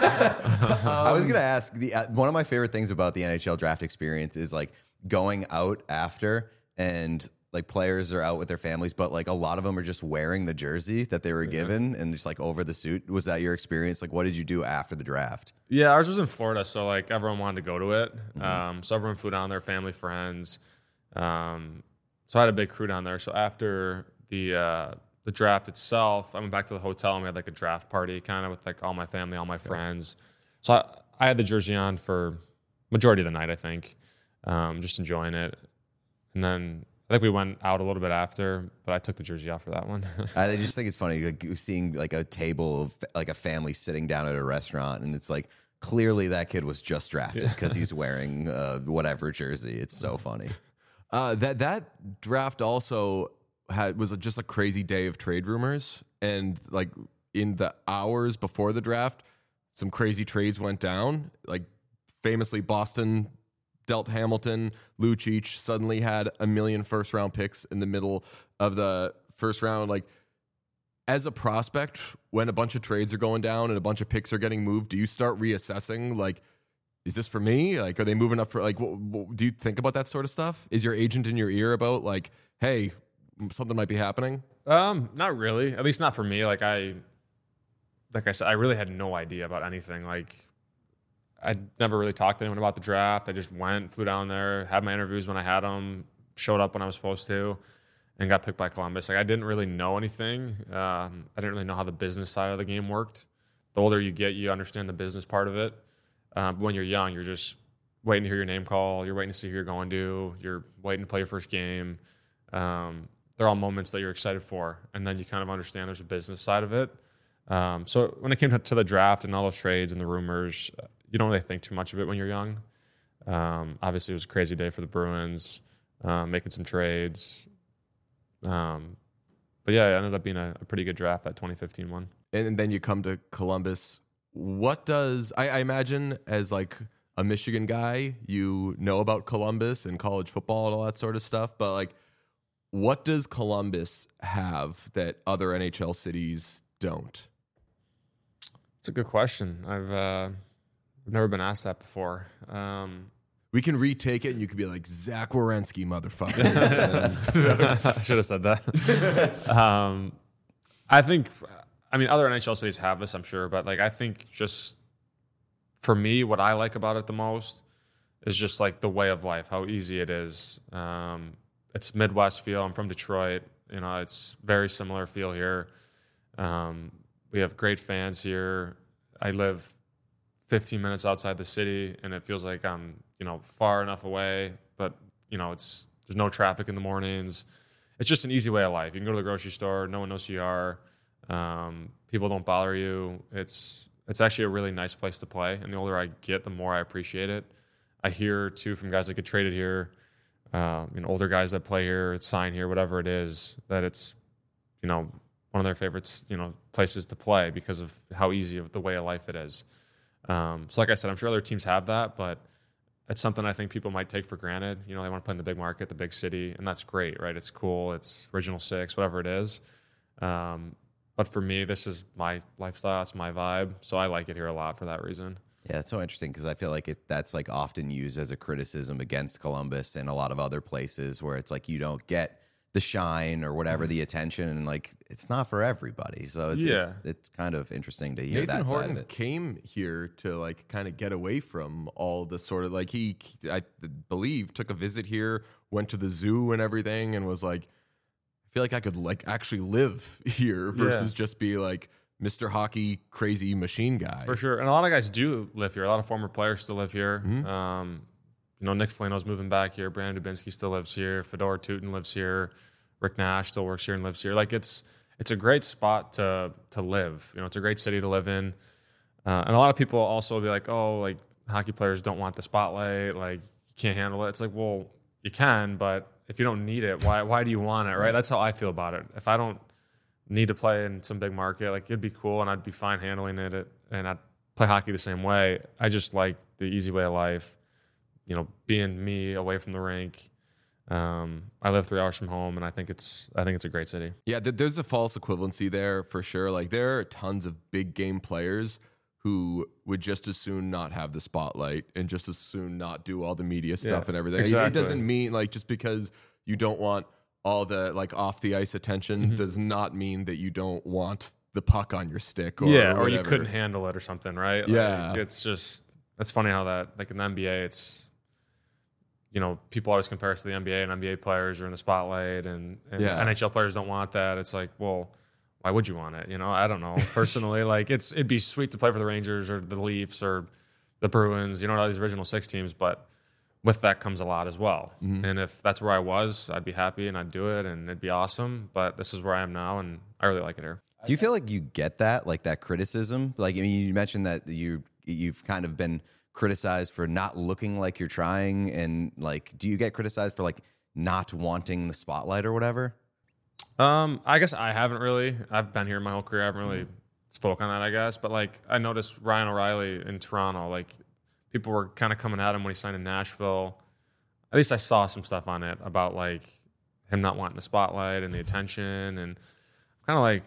I was gonna ask the uh, one of my favorite things about the N H L draft experience is like going out after and like players are out with their families, but like a lot of them are just wearing the jersey that they were given and just like over the suit. Was that your experience? Like, what did you do after the draft? Yeah, ours was in Florida, so like everyone wanted to go to it. Um, so everyone flew down there, family, friends. Um, so I had a big crew down there. So after the uh, the draft itself, I went back to the hotel and we had like a draft party, kind of with like all my family, all my friends. So I, I had the jersey on for majority of the night, I think, um, just enjoying it. And then I think we went out a little bit after, but I took the jersey off for that one. I just think it's funny like seeing like a table of like a family sitting down at a restaurant, and it's like clearly that kid was just drafted because he's wearing uh, whatever jersey. It's so funny. Uh, that that draft also had was just a crazy day of trade rumors, and like in the hours before the draft, some crazy trades went down. Like famously, Boston dealt Hamilton. Lucic suddenly had a million first round picks in the middle of the first round. Like as a prospect, when a bunch of trades are going down and a bunch of picks are getting moved, do you start reassessing like, is this for me? Like, are they moving up for like, what, what, do you think about that sort of stuff? Is your agent in your ear about like, hey, something might be happening? Um, not really. At least not for me. Like I, like I said, I really had no idea about anything. Like I never really talked to anyone about the draft. I just went, flew down there, had my interviews when I had them, showed up when I was supposed to, and got picked by Columbus. Like I didn't really know anything. Um, I didn't really know how the business side of the game worked. The older you get, you understand the business part of it. Um, but when you're young, you're just waiting to hear your name call. You're waiting to see who you're going to. You're waiting to play your first game. Um, they're all moments that you're excited for. And then you kind of understand there's a business side of it. Um, so when it came to the draft and all those trades and the rumors, you don't really think too much of it when you're young. Um, obviously, it was a crazy day for the Bruins, um, making some trades. Um, but yeah, it ended up being a, a pretty good draft, that twenty fifteen one. And then you come to Columbus. What does I, I imagine as like a Michigan guy, you know about Columbus and college football and all that sort of stuff, but like, what does Columbus have that other N H L cities don't? It's a good question. I've uh, I've never been asked that before. Um, We can retake it, and you could be like, Zach Werenski, motherfuckers. I should have said that. um, I think, I mean, other N H L cities have this, I'm sure, but like, I think just for me, what I like about it the most is just like the way of life, how easy it is. Um, it's Midwest feel. I'm from Detroit. You know, it's very similar feel here. Um, we have great fans here. I live fifteen minutes outside the city, and it feels like I'm, you know, far enough away, but you know, it's there's no traffic in the mornings. It's just an easy way of life. You can go to the grocery store, no one knows who you are. Um, people don't bother you. It's it's actually a really nice place to play. And the older I get, the more I appreciate it. I hear too from guys that get traded here, uh, you know, older guys that play here, sign here, whatever it is, that it's, you know, one of their favorites, you know, places to play because of how easy of the way of life it is. Um, so like I said, I'm sure other teams have that, but it's something I think people might take for granted. You know, they want to play in the big market, the big city, and that's great, right? It's cool. It's Original Six, whatever it is. Um, but for me, this is my lifestyle. It's my vibe. So I like it here a lot for that reason. Yeah, it's so interesting because I feel like it, that's like often used as a criticism against Columbus and a lot of other places where it's like you don't get the shine or whatever, the attention, and like it's not for everybody. So it's Yeah. it's, it's kind of interesting to hear Nathan that side Horton of it. came here to like kind of get away from all the sort of like he, I believe, took a visit here, went to the zoo and everything, and was like, I feel like I could like actually live here versus Yeah. just be like Mister Hockey crazy machine guy. For sure. And a lot of guys do live here. A lot of former players still live here. Mhm. Um, you know, Nick Foligno's moving back here. Brandon Dubinsky still lives here. Fedor Tutin lives here. Rick Nash still works here and lives here. Like it's it's a great spot to to live. You know, it's a great city to live in. Uh, and a lot of people also will be like, oh, like hockey players don't want the spotlight. Like you can't handle it. It's like, well, you can, but if you don't need it, why why do you want it, right? That's how I feel about it. If I don't need to play in some big market, like it'd be cool and I'd be fine handling it, and I'd play hockey the same way. I just like the easy way of life, you know, being me away from the rink. Um, I live three hours from home, and I think it's I think it's a great city. Yeah, th- there's a false equivalency there for sure. Like there are tons of big game players who would just as soon not have the spotlight and just as soon not do all the media stuff Yeah, and everything. It- It exactly. doesn't mean like just because you don't want all the like off the ice attention Mm-hmm. does not mean that you don't want the puck on your stick or yeah, or you whatever. couldn't handle it or something, right? Yeah. Like, it's just it's funny how that like in the N B A, it's you know people always compare us to the N B A, and N B A players are in the spotlight, and, and Yeah. N H L players don't want that. It's like, well, why would you want it? You know, I don't know. Personally, like it's it'd be sweet to play for the Rangers or the Leafs or the Bruins, you know, all these original six teams, but with that comes a lot as well. Mm-hmm. And if that's where I was, I'd be happy and I'd do it and it'd be awesome. But this is where I am now, and I really like it here. Do you feel like you get that, like that criticism? Like, I mean, you mentioned that you you've kind of been criticized for not looking like you're trying, and like, do you get criticized for like not wanting the spotlight or whatever? Um, I guess I haven't really. I've been here my whole career. I haven't really spoke on that, I guess. But like, I noticed Ryan O'Reilly in Toronto. Like, people were kind of coming at him when he signed in Nashville. At least I saw some stuff on it about like him not wanting the spotlight and the attention, and kind of like,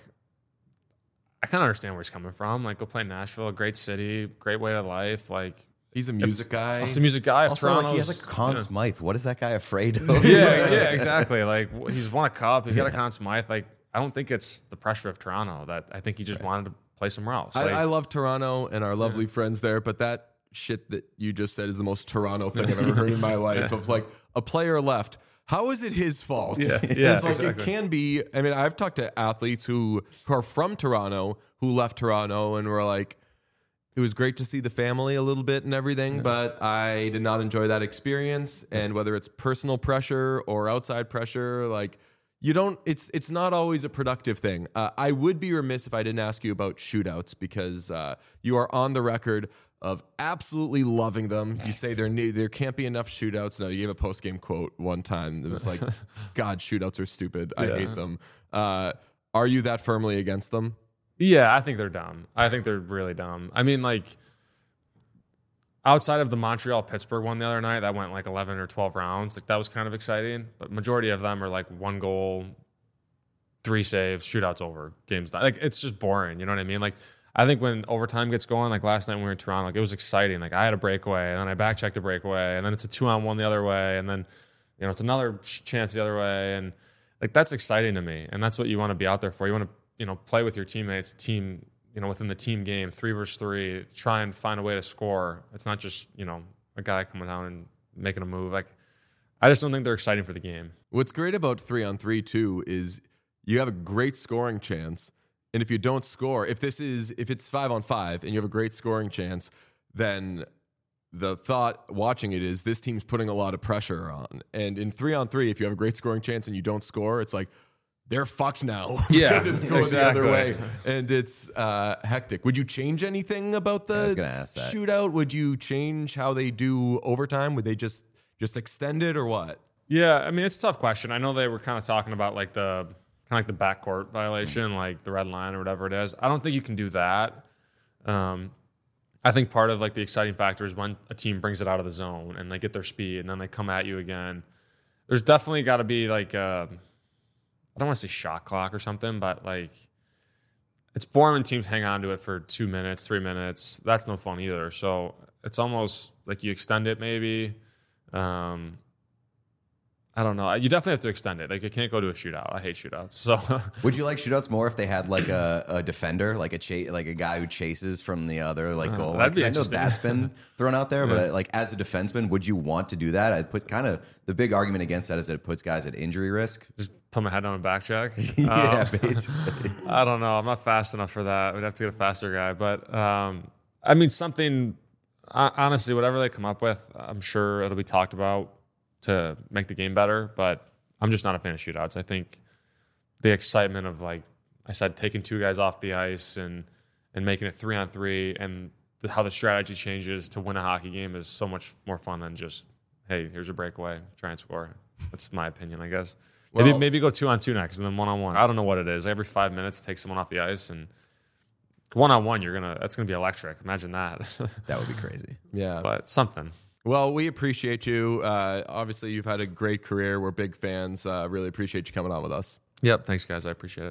I kind of understand where he's coming from. Like, go play in Nashville, a great city, great way of life. Like, He's a music guy. he's a music guy. If Also, like, he Toronto's, has like Conn you know, Smythe. What is that guy afraid of? yeah, yeah, exactly. Like w- he's won a cup. He's got a Conn Smythe. Like I don't think it's the pressure of Toronto. That I think he just wanted to play somewhere else. I, Like, I love Toronto and our lovely friends there, but that shit that you just said is the most Toronto thing I've ever heard in my life. Of like a player left. How is it his fault? Yeah, And yeah, it's like exactly. it can be. I mean, I've talked to athletes who, who are from Toronto who left Toronto and were like, it was great to see the family a little bit and everything, but I did not enjoy that experience. And whether it's personal pressure or outside pressure, like you don't, it's it's not always a productive thing. Uh, I would be remiss if I didn't ask you about shootouts because uh, you are on the record of absolutely loving them. You say there ne- there can't be enough shootouts. No, you gave a post game quote one time. It was like, God, shootouts are stupid. I Yeah. hate them. Uh, are you that firmly against them? Yeah, I think they're dumb. I think they're really dumb. I mean, like, outside of the Montreal Pittsburgh one the other night, that went like eleven or twelve rounds. Like, that was kind of exciting. But majority of them are like one goal, three saves, shootouts over, games done. Like, it's just boring. You know what I mean? Like, I think when overtime gets going, like last night when we were in Toronto, like it was exciting. Like, I had a breakaway, and then I back checked a breakaway, and then it's a two on one the other way, and then you know it's another chance the other way, and like that's exciting to me. And that's what you want to be out there for. You want to you know, play with your teammates, team, you know, within the team game, three versus three, try and find a way to score. It's not just, you know, a guy coming down and making a move. Like, I just don't think they're exciting for the game. What's great about three on three too is you have a great scoring chance. And if you don't score, if this is, if it's five on five and you have a great scoring chance, then the thought watching it is this team's putting a lot of pressure on. And in three on three, if you have a great scoring chance and you don't score, it's like, they're fucked now. Yeah, it's going exactly. the other way, and it's uh, hectic. Would you change anything about the Yeah, I was gonna ask that. shootout? Would you change how they do overtime? Would they just just extend it or what? Yeah, I mean, it's a tough question. I know they were kind of talking about like the kind of like the backcourt violation, like the red line or whatever it is. I don't think you can do that. Um, I think part of like the exciting factor is when a team brings it out of the zone and they get their speed and then they come at you again. There's definitely got to be like a, I don't want to say shot clock or something, but like it's boring when teams hang on to it for two minutes, three minutes. That's no fun either. So it's almost like you extend it maybe. Um, I don't know. You definitely have to extend it. Like, it can't go to a shootout. I hate shootouts. So Would you like shootouts more if they had like a, a defender, like a cha- like a guy who chases from the other like goal? that'd be Like, I know interesting. that's been thrown out there, Yeah. but like as a defenseman, would you want to do that? I put kind of the big argument against that is that it puts guys at injury risk. just put my head on a back check. yeah, Um, basically. I don't know. I'm not fast enough for that. We'd have to get a faster guy. But um, I mean, something, uh, honestly, whatever they come up with, I'm sure it'll be talked about to make the game better. But I'm just not a fan of shootouts. I think the excitement of, like I said, taking two guys off the ice and, and making it three on three and the, how the strategy changes to win a hockey game is so much more fun than just, hey, here's a breakaway, try and score. That's my opinion, I guess. Maybe Well- maybe go two on two next and then one on one. I don't know what it is. Every five minutes, take someone off the ice and one on one. You're gonna that's gonna be electric. Imagine that. That would be crazy. Yeah. But something. Well, we appreciate you. Uh, obviously, you've had a great career. We're big fans. Uh, really appreciate you coming on with us. Yep. Thanks, guys. I appreciate it.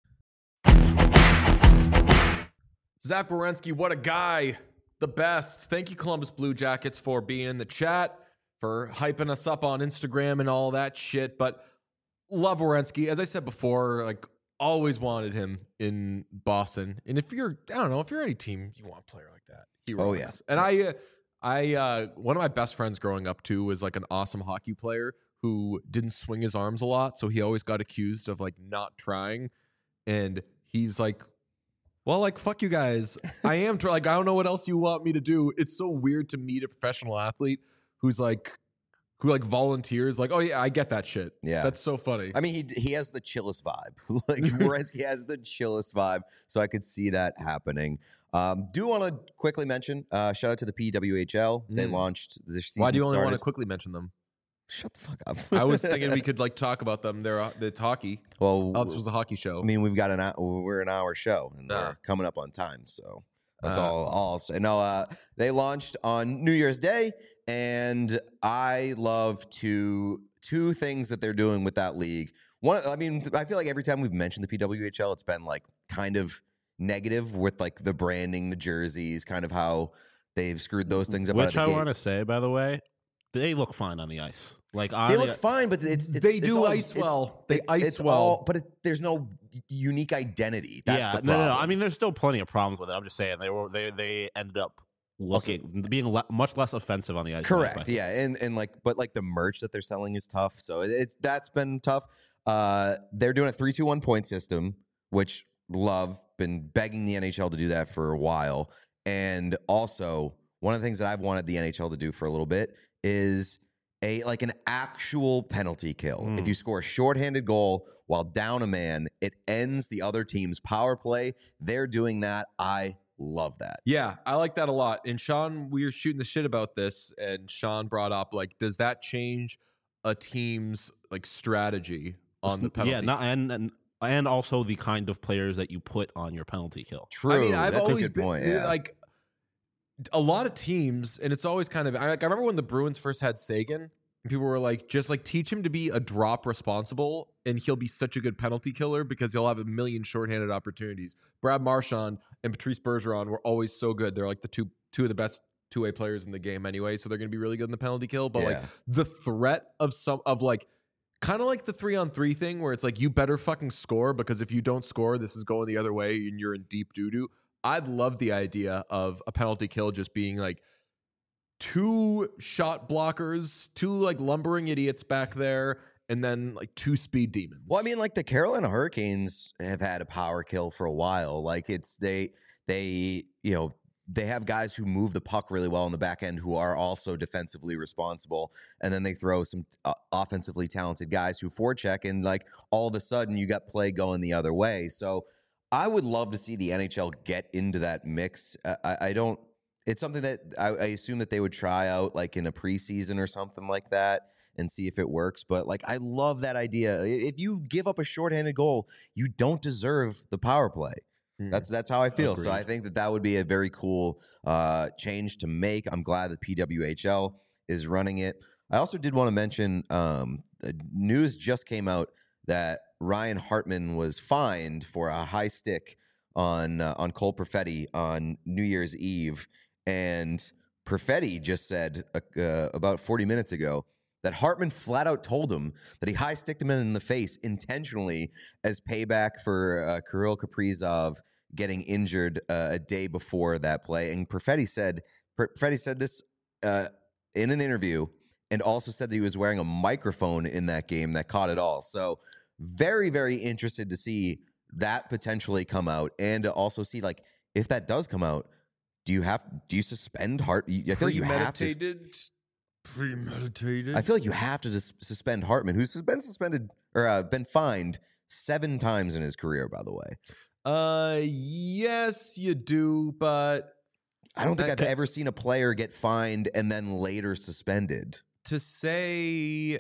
Zach Werenski, what a guy. The best. Thank you, Columbus Blue Jackets, for being in the chat, for hyping us up on Instagram and all that shit. But love Werenski. As I said before, like, always wanted him in Boston. And if you're, I don't know, if you're any team, you want a player like that. He Oh, runs. yeah. And I, uh, I, uh, one of my best friends growing up too was like an awesome hockey player who didn't swing his arms a lot. So he always got accused of like not trying. And he's like, well, like, fuck you guys. I am try- like, I don't know what else you want me to do. It's so weird to meet a professional athlete who's like, who like volunteers. Like, oh yeah, I get that shit. Yeah. That's so funny. I mean, he he has the chillest vibe. Like Werenski has the chillest vibe, so I could see that happening. Um, do want to quickly mention, uh, shout out to the P W H L. They Mm. launched this season. Why do you only want to started- quickly mention them? Shut the fuck up. I was thinking we could like talk about them. They're uh, it's hockey. Well, Oh, this was a hockey show. I mean, we've got an hour, we're an hour show, and Ah. we're coming up on time, so that's Ah. all. All I'll say. No, uh, they launched on New Year's Day, and I love to two things that they're doing with that league. One, I mean, I feel like every time we've mentioned the P W H L, it's been like kind of negative with like the branding, the jerseys, kind of how they've screwed those things up. out Which of I the want gate. to say, by the way, they look fine on the ice. Like on They the- look fine, but it's, it's They it's do all- ice it's- well. They it's- ice it's well. all- but it, there's no unique identity. That's yeah, the no, problem. no, no. I mean, there's still plenty of problems with it. I'm just saying they were they they ended up looking being le- much less offensive on the ice. than I Correct. expected. Yeah, and and like, but like the merch that they're selling is tough. So it, it's that's been tough. Uh, they're doing a three two one point system, which love been begging the N H L to do that for a while. And also, one of the things that I've wanted the N H L to do for a little bit is a like an actual penalty kill. Mm. If you score a shorthanded goal while down a man, it ends the other team's power play. They're doing that. I love that. Yeah, I like that a lot. And Sean, we were shooting the shit about this, and Sean brought up, like, does that change a team's like strategy on the penalty? Yeah, not, and, and and also the kind of players that you put on your penalty kill. True. I mean, I've That's always a good been point. Yeah. like a lot of teams, and it's always kind of. I, like, I remember when the Bruins first had Sagan, and people were like, just like teach him to be a drop responsible, and he'll be such a good penalty killer because he'll have a million shorthanded opportunities. Brad Marchand and Patrice Bergeron were always so good. They're like the two two of the best two way players in the game anyway, so they're going to be really good in the penalty kill. But like Yeah. the threat of some of like. Kind of like the three on three thing where it's like, you better fucking score because if you don't score, this is going the other way and you're in deep doo doo. I'd love the idea of a penalty kill just being like two shot blockers, two like lumbering idiots back there, and then like two speed demons. Well, I mean, like the Carolina Hurricanes have had a power kill for a while. Like it's they they you know they have guys who move the puck really well in the back end who are also defensively responsible, and then they throw some uh, offensively talented guys who forecheck, and like all of a sudden you got play going the other way. So I would love to see the N H L get into that mix. Uh, I, I don't. It's something that I, I assume that they would try out like in a preseason or something like that and see if it works. But like, I love that idea. If you give up a shorthanded goal, you don't deserve the power play. That's that's how I feel. Agreed. So I think that that would be a very cool uh, change to make. I'm glad that P W H L is running it. I also did want to mention um, the news just came out that Ryan Hartman was fined for a high stick on uh, on Cole Perfetti on New Year's Eve, and Perfetti just said uh, uh, about forty minutes ago that Hartman flat out told him that he high sticked him in the face intentionally as payback for uh, Kirill Kaprizov getting injured uh, a day before that play. And Perfetti said, Perfetti said this uh, in an interview, and also said that he was wearing a microphone in that game that caught it all. So very, very interested to see that potentially come out, and to also see like if that does come out, do you have do you suspend Hart? I feel like you have to. Premeditated. Premeditated. I feel like you have to dis- suspend Hartman, who's been suspended or uh, been fined seven times in his career, by the way. Uh, yes, you do, but I don't think That I've ca- ever seen a player get fined and then later suspended. to say,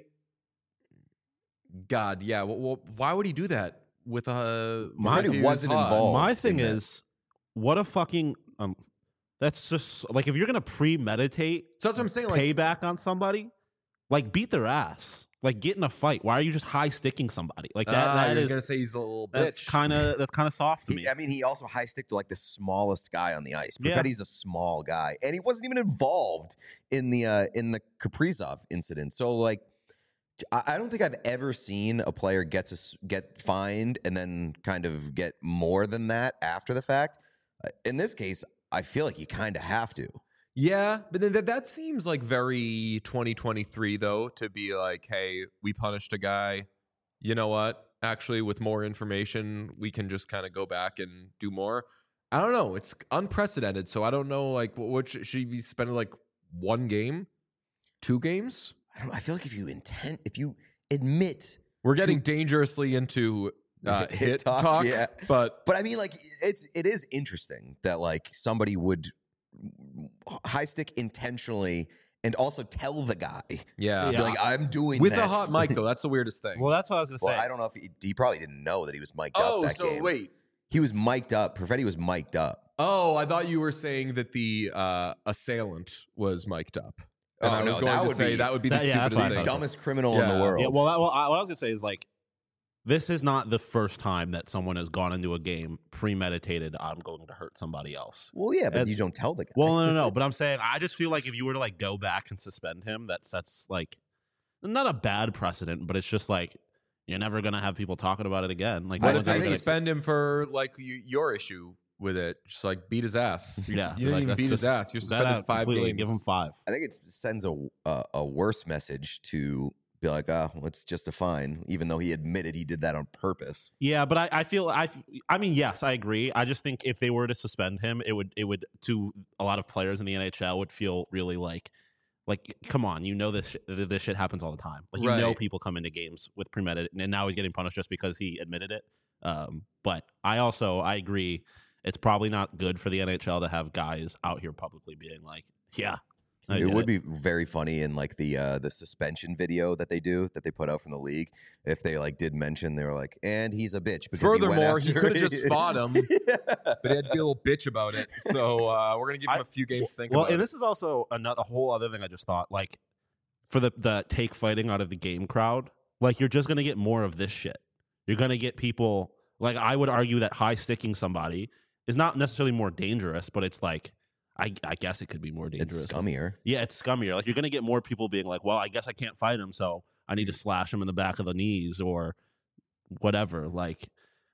God, yeah. Well, well, why would he do that with a? My- if he was wasn't hot? involved. My in thing that. is, what a fucking um, that's just like if you're gonna premeditate So that's what I'm saying. Like, payback on somebody, like beat their ass, like get in a fight. Why are you just high sticking somebody like that? ah, that you're is gonna say he's a little that's bitch. kind of that's kind of soft to me. He, I mean, he also high sticked like the smallest guy on the ice. Yeah. Perfetti's a small guy, and he wasn't even involved in the uh, in the Kaprizov incident. So like, I, I don't think I've ever seen a player get to s- get fined and then kind of get more than that after the fact. Uh, in this case, I feel like you kind of have to. Yeah, but then that, that seems like very twenty twenty-three though, to be like, hey, we punished a guy. You know what? Actually, with more information, we can just kind of go back and do more. I don't know. It's unprecedented, so I don't know. Like, what, what should, should he be spending like one game, two games? I don't. I feel like if you intend, if you admit, We're getting dangerously into uh, Hit hit, talk, talk, yeah. but but I mean, like it's it is interesting that like somebody would high stick intentionally and also tell the guy, yeah, be Yeah. like, I'm doing with this. a hot mic though. That's the weirdest thing. Well, that's what I was gonna Well, say. I don't know if he, he probably didn't know that he was mic'd oh, up that so game. wait. He was mic'd up. Perfetti was mic'd up. Oh, I thought you were saying that the uh, assailant was mic'd up. And Oh, I was no, going that to would say be- that would be that- the yeah, that's stupidest what I The thing. thought. dumbest criminal in Yeah. the world. Yeah, well, I, well I, what I was gonna say is like, this is not the first time that someone has gone into a game premeditated. I'm going to hurt somebody else. Well, yeah, but you That's- don't tell the guy. Well, no, no, no. But I'm saying I just feel like if you were to like go back and suspend him, that sets like not a bad precedent, but it's just like you're never gonna have people talking about it again. Like, I- What no if one's I they ever think gonna- it's- suspend him for like you, your issue with it? Just like beat his ass. You, yeah, you didn't like, even that's beat his just- ass. You're that suspended out five completely. games. Give him five. I think it sends a, a a worse message to be like, oh, it's just a fine, even though he admitted he did that on purpose. Yeah, but I, I feel I I mean yes, I agree. I just think if they were to suspend him, it would it would to a lot of players in the N H L would feel really like like come on, you know this sh- this shit happens all the time. Like you know Right. people come into games with premeditated, and now he's getting punished just because he admitted it. Um, but I also I agree, it's probably not good for the N H L to have guys out here publicly being like, yeah. I It did would be very funny in like the uh, the suspension video that they do that they put out from the league if they like did mention they were like, and he's a bitch. Because Furthermore, he, he, could have just fought him, Yeah. but he had to be a little bitch about it. So uh, we're gonna give him I- a few games to think Well, about. and it. this is also another a whole other thing I just thought. Like for the the take fighting out of the game crowd, like you're just gonna get more of this shit. You're gonna get people like I would argue that high sticking somebody is not necessarily more dangerous, but it's like I I guess it could be more dangerous. It's scummier. Yeah, it's scummier. Like you're gonna get more people being like, well, I guess I can't fight him, so I need to slash him in the back of the knees or whatever. Like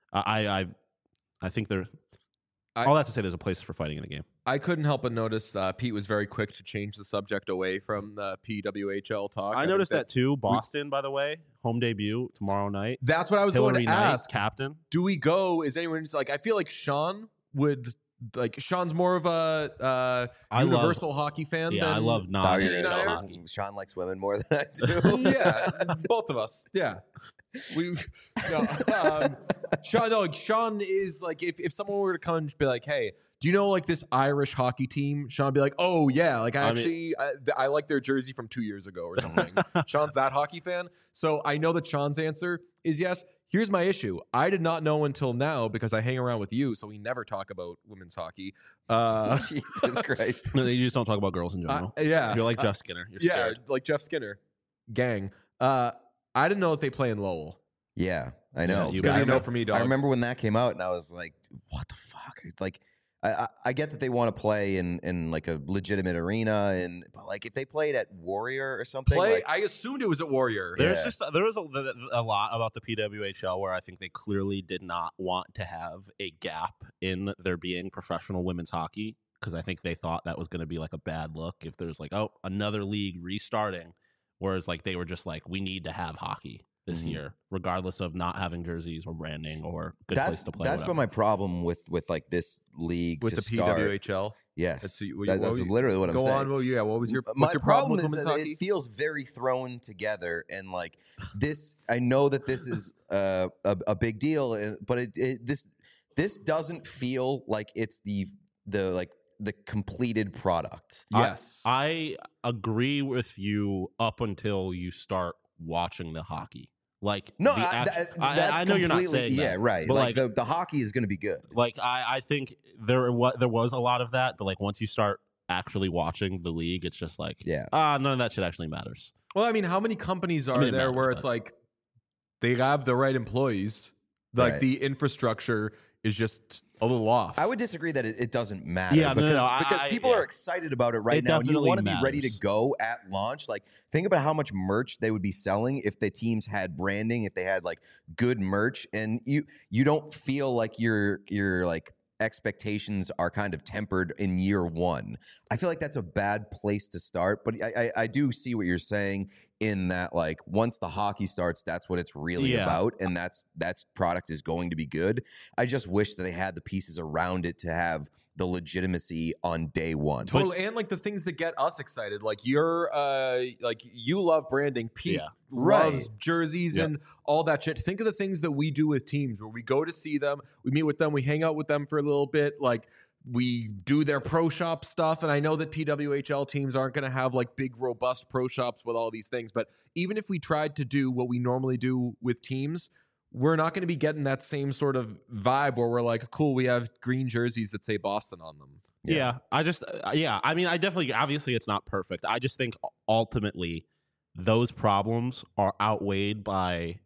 I I I think there. I- All that to say, there's a place for fighting in the game. I couldn't help but notice uh, Pete was very quick to change the subject away from the P W H L talk. I think noticed that too. Boston, by the way, home debut tomorrow night. That's what I was Hillary going to Knight, ask. captain. Do we go? Is anyone just like? I feel like Sean would like. Sean's more of a uh, I love- universal hockey fan. Yeah, than, I love Oh, non you're- N H L no, hockey. Sean likes women more than I do. yeah, both of us. Yeah, we. No, um, Sean, no, like, Sean is like if, if someone were to come and be like, "Hey, do you know like this Irish hockey team?" Sean would be like, "Oh yeah, like I, I mean- actually I, th- I like their jersey from two years ago or something." Sean's that hockey fan, so I know that Sean's answer is yes. Here's my issue: I did not know until now because I hang around with you, so we never talk about women's hockey. Uh, Jesus Christ. No, you just don't talk about girls in uh, general. yeah, You're like Uh, Jeff Skinner. You're yeah, scared. like Jeff Skinner, gang. Uh, I didn't know that they play in Lowell. Yeah, I know. you It's gonna be I a no remember- for me, dog. I remember when that came out, and I was like, "What the fuck?" Like, I, I, I get that they want to play in, in like a legitimate arena, and but like if they played at Warrior or something, Play. like, I assumed it was at Warrior. There's Yeah. just there was a, a lot about the P W H L where I think they clearly did not want to have a gap in there being professional women's hockey because I think they thought that was going to be like a bad look if there's like oh another league restarting, whereas like they were just like we need to have hockey this Mhm. year regardless of not having jerseys or branding or good place that's to play. that's been my problem with with like this league with to the start. P W H L. Yes, Let's see, what that, you- that's what you- literally what I'm Go saying. on. Well, yeah. What was your My what's your problem, problem with is women's that hockey? it feels very thrown together, and like this. I know that this is uh, a a big deal, uh, but it, it this this doesn't feel like it's the the like the completed product. yes. I agree with you up until you start watching the hockey. Like No, the I, act- that, I- that's I know you're not completely- saying yeah, that, right. but Like, like, the, the hockey is going to be good. like I, I think there what there was a lot of that, but like once you start actually watching the league, it's just like Yeah. ah, none of that shit actually matters. well, I mean, how many companies are mean, it there matters, where it's but- like they have the right employees, like Right. the infrastructure is just a little off. I would disagree that it, it doesn't matter Yeah, no, no, because, no, I- because I- people yeah. are excited about it right It now, and you definitely want to be ready to matters. go at launch. Like, think about how much merch they would be selling if the teams had branding, if they had like good merch, and you you don't feel like your your like expectations are kind of tempered in year one. I feel like that's a bad place to start, but I I, I do see what you're saying. In that, like, once the hockey starts, that's what it's really Yeah. about, and that's that's product is going to be good. I just wish that they had the pieces around it to have the legitimacy on day one. Totally, and like the things that get us excited, like you're, uh, like you love branding. Pete Yeah. loves Right. jerseys Yep. and all that shit. Think of the things that we do with teams, where we go to see them, we meet with them, we hang out with them for a little bit, like we do their pro shop stuff. And I know that P W H L teams aren't going to have like big, robust pro shops with all these things, but even if we tried to do what we normally do with teams, we're not going to be getting that same sort of vibe where we're like, cool, we have green jerseys that say Boston on them. Yeah, Yeah. I just uh, yeah, I mean, I definitely obviously it's not perfect. I just think ultimately those problems are outweighed by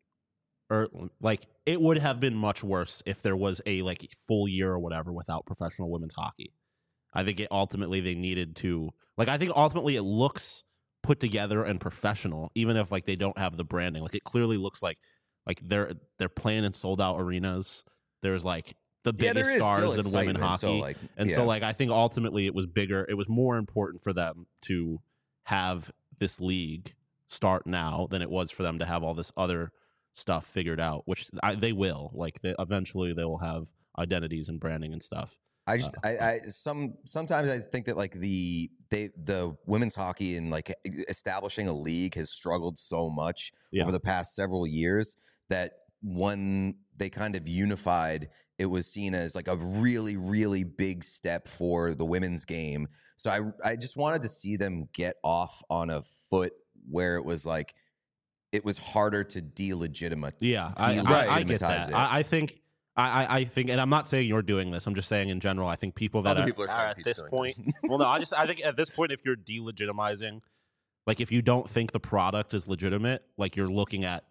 or like it would have been much worse if there was a like full year or whatever without professional women's hockey. I think it ultimately they needed to like I think ultimately it looks put together and professional even if like they don't have the branding. Like it clearly looks like like they're they're playing in sold out arenas. There's like the Yeah, biggest there is stars still in women excitement, so, hockey. like, And yeah. so, like, I think ultimately it was bigger. It was more important for them to have this league start now than it was for them to have all this other stuff figured out, which I, they will. Like they, eventually, they will have identities and branding and stuff. I just, Uh, I, I, some, sometimes I think that like the, they, the women's hockey and like establishing a league has struggled so much Yeah. over the past several years that when they kind of unified, it was seen as like a really, really big step for the women's game. So I, I just wanted to see them get off on a foot where it was like, it was harder to delegitimate. Yeah, I, Right. I, I get Delegitimize that. it. I, I think, I, I- I think, and I'm not saying you're doing this. I'm just saying in general. I think people that Other are, people are saying are at Pete's this doing point. this. Well, no, I just I think at this point, if you're delegitimizing, like if you don't think the product is legitimate, like you're looking at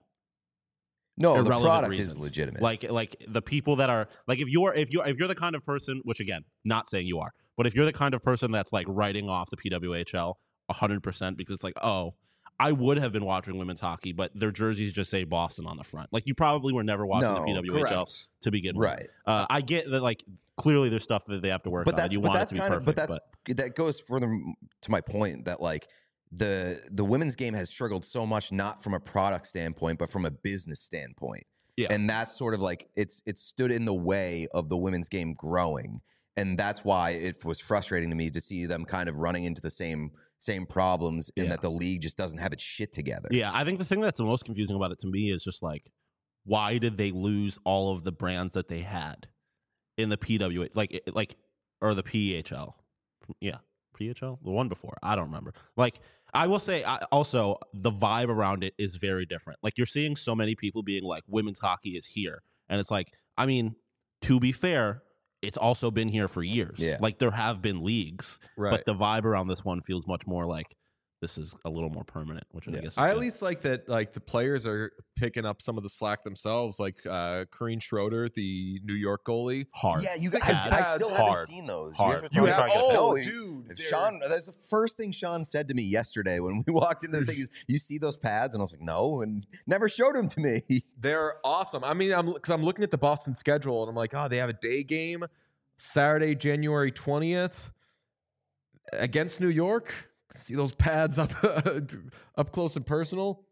No, the irrelevant product reasons. is legitimate. Like like the people that are like if you're if you're if you're the kind of person, which again, not saying you are, but if you're the kind of person that's like writing off the P W H L one hundred percent because it's like, oh, I would have been watching women's hockey, but their jerseys just say Boston on the front. Like you probably were never watching No, the P W H L correct. to begin with. right. Uh, I get that like clearly there's stuff that they have to work But on. And that's, you but want that's it to be kind perfect, of, but that's, that goes further m- to my point that like the, the women's game has struggled so much, not from a product standpoint, but from a business standpoint. Yeah. And that's sort of like, it's, it's stood in the way of the women's game growing. And that's why it was frustrating to me to see them kind of running into the same, same problems in Yeah. that the league just doesn't have its shit together. Yeah, I think the thing that's the most confusing about it to me is just like, why did they lose all of the brands that they had in the P W H, like, like, or the P H L? Yeah, P H L, the one before. I don't remember. Like, I will say, I, also the vibe around it is very different. Like, you're seeing so many people being like, women's hockey is here, and it's like, I mean, to be fair, it's also been here for years. Yeah. Like, there have been leagues, Right. but the vibe around this one feels much more like this is a little more permanent, which Yeah. I guess is I at good. least like that like the players are picking up some of the slack themselves. Like uh Corrine Schroeder, the New York goalie. hard. Yeah, you Sick guys, as I pads. still Hard. haven't seen those. Hard. guys were You talking have- about- oh, No, dude, If they're- Sean, that's the first thing Sean said to me yesterday when we walked into the thing. Is, you see those pads, and I was like, no, and never showed them to me. They're awesome. I mean, I'm because I'm looking at the Boston schedule and I'm like, oh, they have a day game Saturday, January twentieth against New York. See those pads up up close and personal.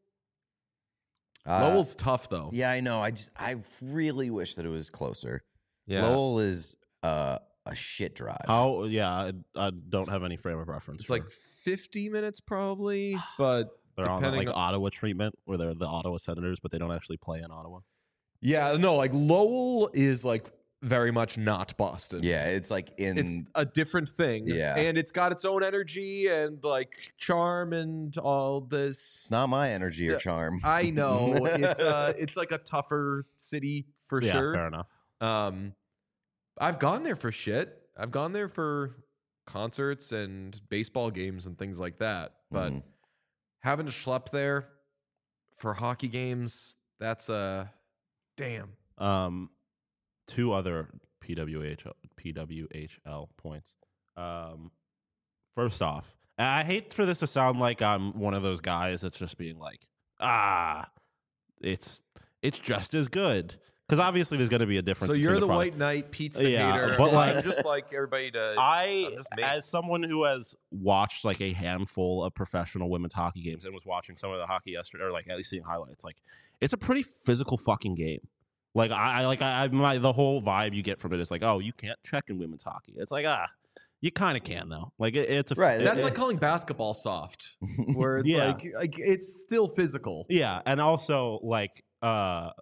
Lowell's tough though. Yeah, I know. I just, I really wish that it was closer. Yeah. Lowell is uh, a shit drive. How? Yeah, I, I don't have any frame of reference. It's for- like fifty minutes probably, but they're on the, depending like on- Ottawa treatment, where they're the Ottawa Senators, but they don't actually play in Ottawa. yeah, no, like Lowell is like very much not Boston. Yeah, it's like in. It's a different thing. Yeah. And it's got its own energy and like charm and all this. not my energy or stu- charm. I know. It's uh it's like a tougher city for yeah, sure. fair enough. Um I've gone there for shit. I've gone there for concerts and baseball games and things like that. But Mhm. having to schlep there for hockey games, that's a damn. Um, two other P W H L, P W H L points. Um, first off, and I hate for this to sound like I'm one of those guys that's just being like, ah, it's it's just as good. Because obviously there's going to be a difference. So between you're the, product. white knight, Pete's the Yeah, hater. but, like- I'm just like everybody to I, I'm just me. as someone who has watched like a handful of professional women's hockey games and was watching some of the hockey yesterday, or like at least seeing highlights, like it's a pretty physical fucking game. Like I, I like I, I my, the whole vibe you get from it is like, oh, you can't check in women's hockey. It's like ah, you kind of can though. Like it, it's a Right, it- That's it- like calling basketball soft, where it's Yeah. like, like it's still physical. yeah, and also like uh,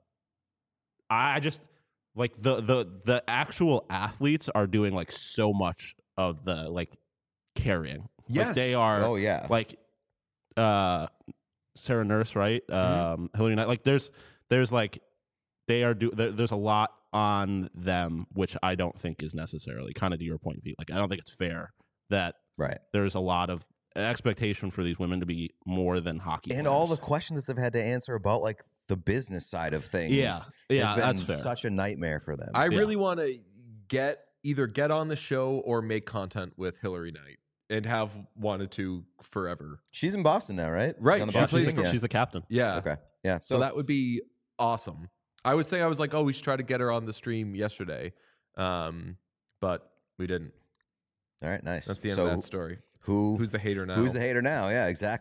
I I just like the the the actual athletes are doing like so much of the like carrying. Yes. Like, they are. Oh yeah. like uh Sarah Nurse, right? Um Hillary Knight. Like there's there's like they are do there, there's a lot on them which I don't think is necessarily kind of to your point, Pete. Like I don't think it's fair that right. there's a lot of expectation for these women to be more than hockey And all the players. questions they've had to answer about like the business side of things. Yeah. Yeah, has been that's fair. such a nightmare for them. I Yeah. really want to get either get on the show or make content with Hillary Knight and have wanted to forever. She's in Boston now, right? Right, On the she Yeah, Boston she's, plays team? the, Yeah. she's the captain. Yeah. Okay. Yeah. So, So, that would be awesome. I was thinking, I was like, oh, we should try to get her on the stream yesterday, um, but we didn't. all right, nice. That's the end so of that story. Who Who's the hater now? Who's the hater now? Yeah, exactly.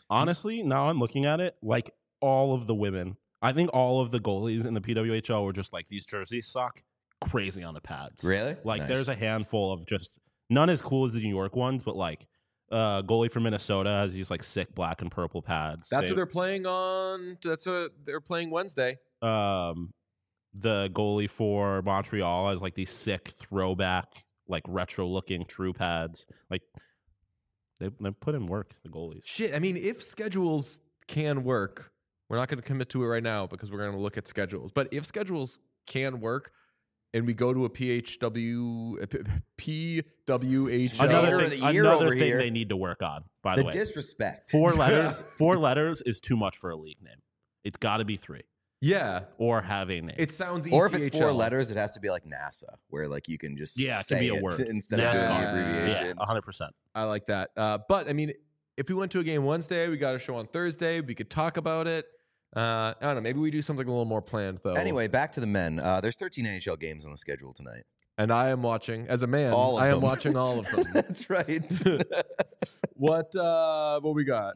Honestly, now I'm looking at it, like all of the women, I think all of the goalies in the P W H L were just like, these jerseys suck, crazy on the pads. Really? Like Nice. there's a handful of just none as cool as the New York ones, but like uh goalie from Minnesota has these like sick black and purple pads. That's Same- what they're playing on. That's what they're playing Wednesday. um the goalie for Montreal has like these sick throwback, like retro looking true pads. Like they they put in work, the goalies. Shit. I mean, if schedules can work, we're not going to commit to it right now because we're going to look at schedules. But if schedules can work, and we go to a P H W, a P- P W H L. Another- Another of thing, the year another over thing here. they need to work on, by The the way. disrespect. Four letters, four letters is too much for a league name. It's got to be three Yeah, or have a name. it sounds. Or if it's E C H four L. letters, it has to be like NASA, where like you can just Yeah, it say can be a it word. instead of doing the NASCAR. Yeah. abbreviation. yeah, one hundred percent. I like that. Uh, but I mean, if we went to a game Wednesday, we got a show on Thursday. We could talk about it. Uh, I don't know. Maybe we do something a little more planned though. Anyway, back to the men. Uh, there's thirteen N H L games on the schedule tonight. and I am watching as a man. All of I am them. watching all of them. That's right. what? Uh, what we got?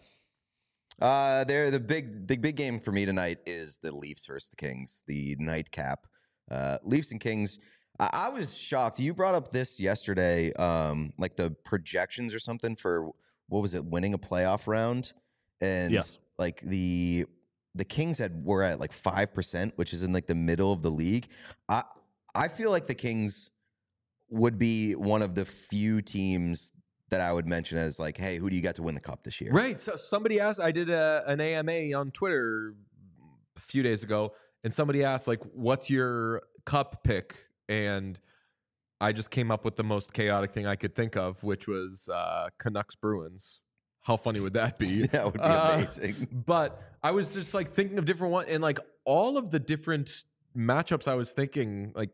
Uh, there, the big, the big game for me tonight is the Leafs versus the Kings, the nightcap. Uh, Leafs and Kings. I, I was shocked. You brought up this yesterday, um, like the projections or something for what was it, winning a playoff round, and Yes. like the the Kings had were at like five percent, which is in like the middle of the league. I I feel like the Kings would be one of the few teams that I would mention as like, hey, who do you got to win the cup this year? Right. So somebody asked. I did a, an A M A on Twitter a few days ago, and somebody asked like, "What's your cup pick?" And I just came up with the most chaotic thing I could think of, which was uh, Canucks Bruins. How funny would that be? That would be Uh, amazing. But I was just like thinking of different ones, and like all of the different matchups I was thinking, like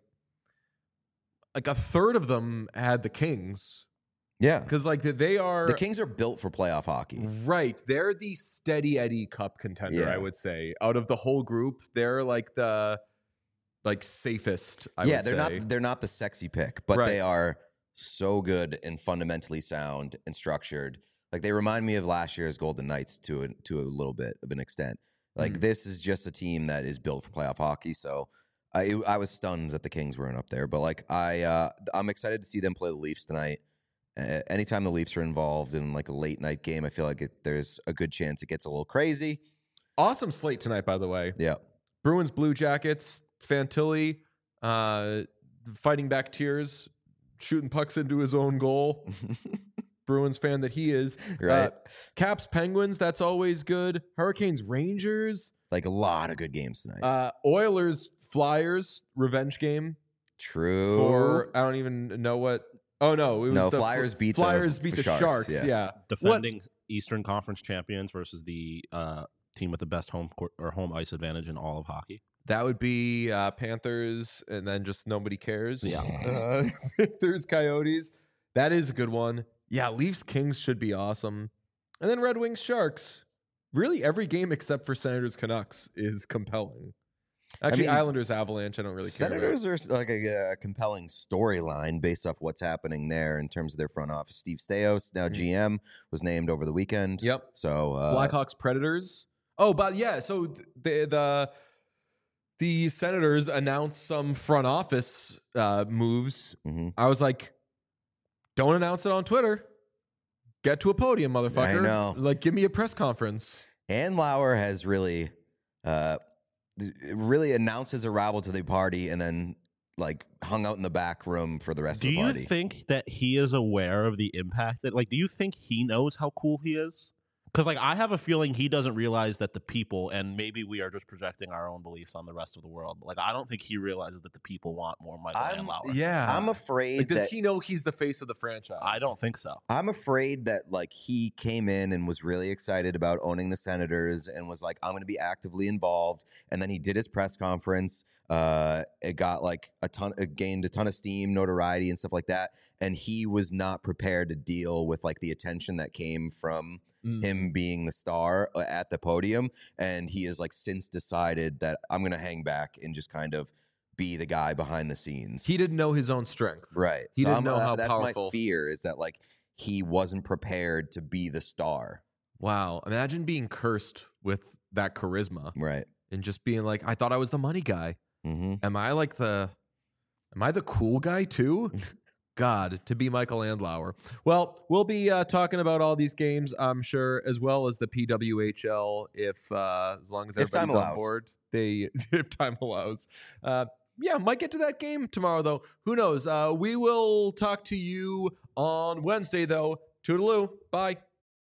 like a third of them had the Kings Yeah. because like they are The Kings are built for playoff hockey. right. They're the steady Eddie Cup contender, Yeah. I would say. Out of the whole group, they're like the like safest. I yeah, would they're say. not they're not the sexy pick, but Right. they are so good and fundamentally sound and structured. Like they remind me of last year's Golden Knights to a, to a little bit of an extent. Like Mhm. this is just a team that is built for playoff hockey. So I I was stunned that the Kings weren't up there, but like I uh, I'm excited to see them play the Leafs tonight. Uh, anytime the Leafs are involved in like a late night game, I feel like it, there's a good chance it gets a little crazy. Awesome slate tonight, by the way. Yeah. Bruins, Blue Jackets, Fantilli, uh, fighting back tears, shooting pucks into his own goal. Bruins fan that he is. Right. Uh, Caps, Penguins, that's always good. Hurricanes, Rangers, Like a lot of good games tonight. uh, Oilers, Flyers, revenge game. True. For I don't even know what. Oh no, it was No, the Flyers beat the Flyers beat f- the Sharks, Sharks. yeah. Yeah, Defending Eastern Conference champions versus the uh, team with the best home court or home ice advantage in all of hockey. that would be uh, Panthers, and then just nobody cares. Yeah. uh, Panthers, Coyotes. That is a good one. Yeah, Leafs, Kings should be awesome, and then Red Wings, Sharks. Really, every game except for Senators, Canucks is compelling. Actually, mean, Islanders, s- Avalanche. I don't really care. about. Senators are s- like a, a compelling storyline based off what's happening there in terms of their front office. Steve Stais, now Mhm. G M, was named over the weekend. Yep. So uh, Blackhawks, Predators. Oh, but yeah. So th- the the the Senators announced some front office uh, moves. mhm. I was like, don't announce it on Twitter. Get to a podium, motherfucker. know. Like, give me a press conference. Ann Lauer has really, uh, really announced his arrival to the party and then like hung out in the back room for the rest Do of the you party. think that he is aware of the impact that, like, do you think he knows how cool he is? Because, like, I have a feeling he doesn't realize that the people, and maybe we are just projecting our own beliefs on the rest of the world. But, like, I don't think he realizes that the people want more Michael I'm- Andlauer. Yeah. I'm afraid like, does that he know he's the face of the franchise? I don't think so. I'm afraid that like he came in and was really excited about owning the Senators and was like, I'm going to be actively involved. And then he did his press conference. Uh, it got like a ton, it gained a ton of steam, notoriety, and stuff like that. And he was not prepared to deal with like the attention that came from Mm. him being the star uh, at the podium. And he has like since decided that I'm going to hang back and just kind of be the guy behind the scenes. He didn't know his own strength. Right. He so didn't I'm, know uh, how that's powerful- my fear is that like he wasn't prepared to be the star. Wow. Imagine being cursed with that charisma Right. and just being like, I thought I was the money guy. Mm-hmm. Am I like the, am I the cool guy too? God, to be Michael Andlauer. Well, we'll be uh, talking about all these games, I'm sure, as well as the P W H L, if uh, as long as If time everybody's on allows. board. They, if time allows. Uh, yeah, might get to that game tomorrow, though. Who knows? Uh, we will talk to you on Wednesday, though. Toodaloo. Bye.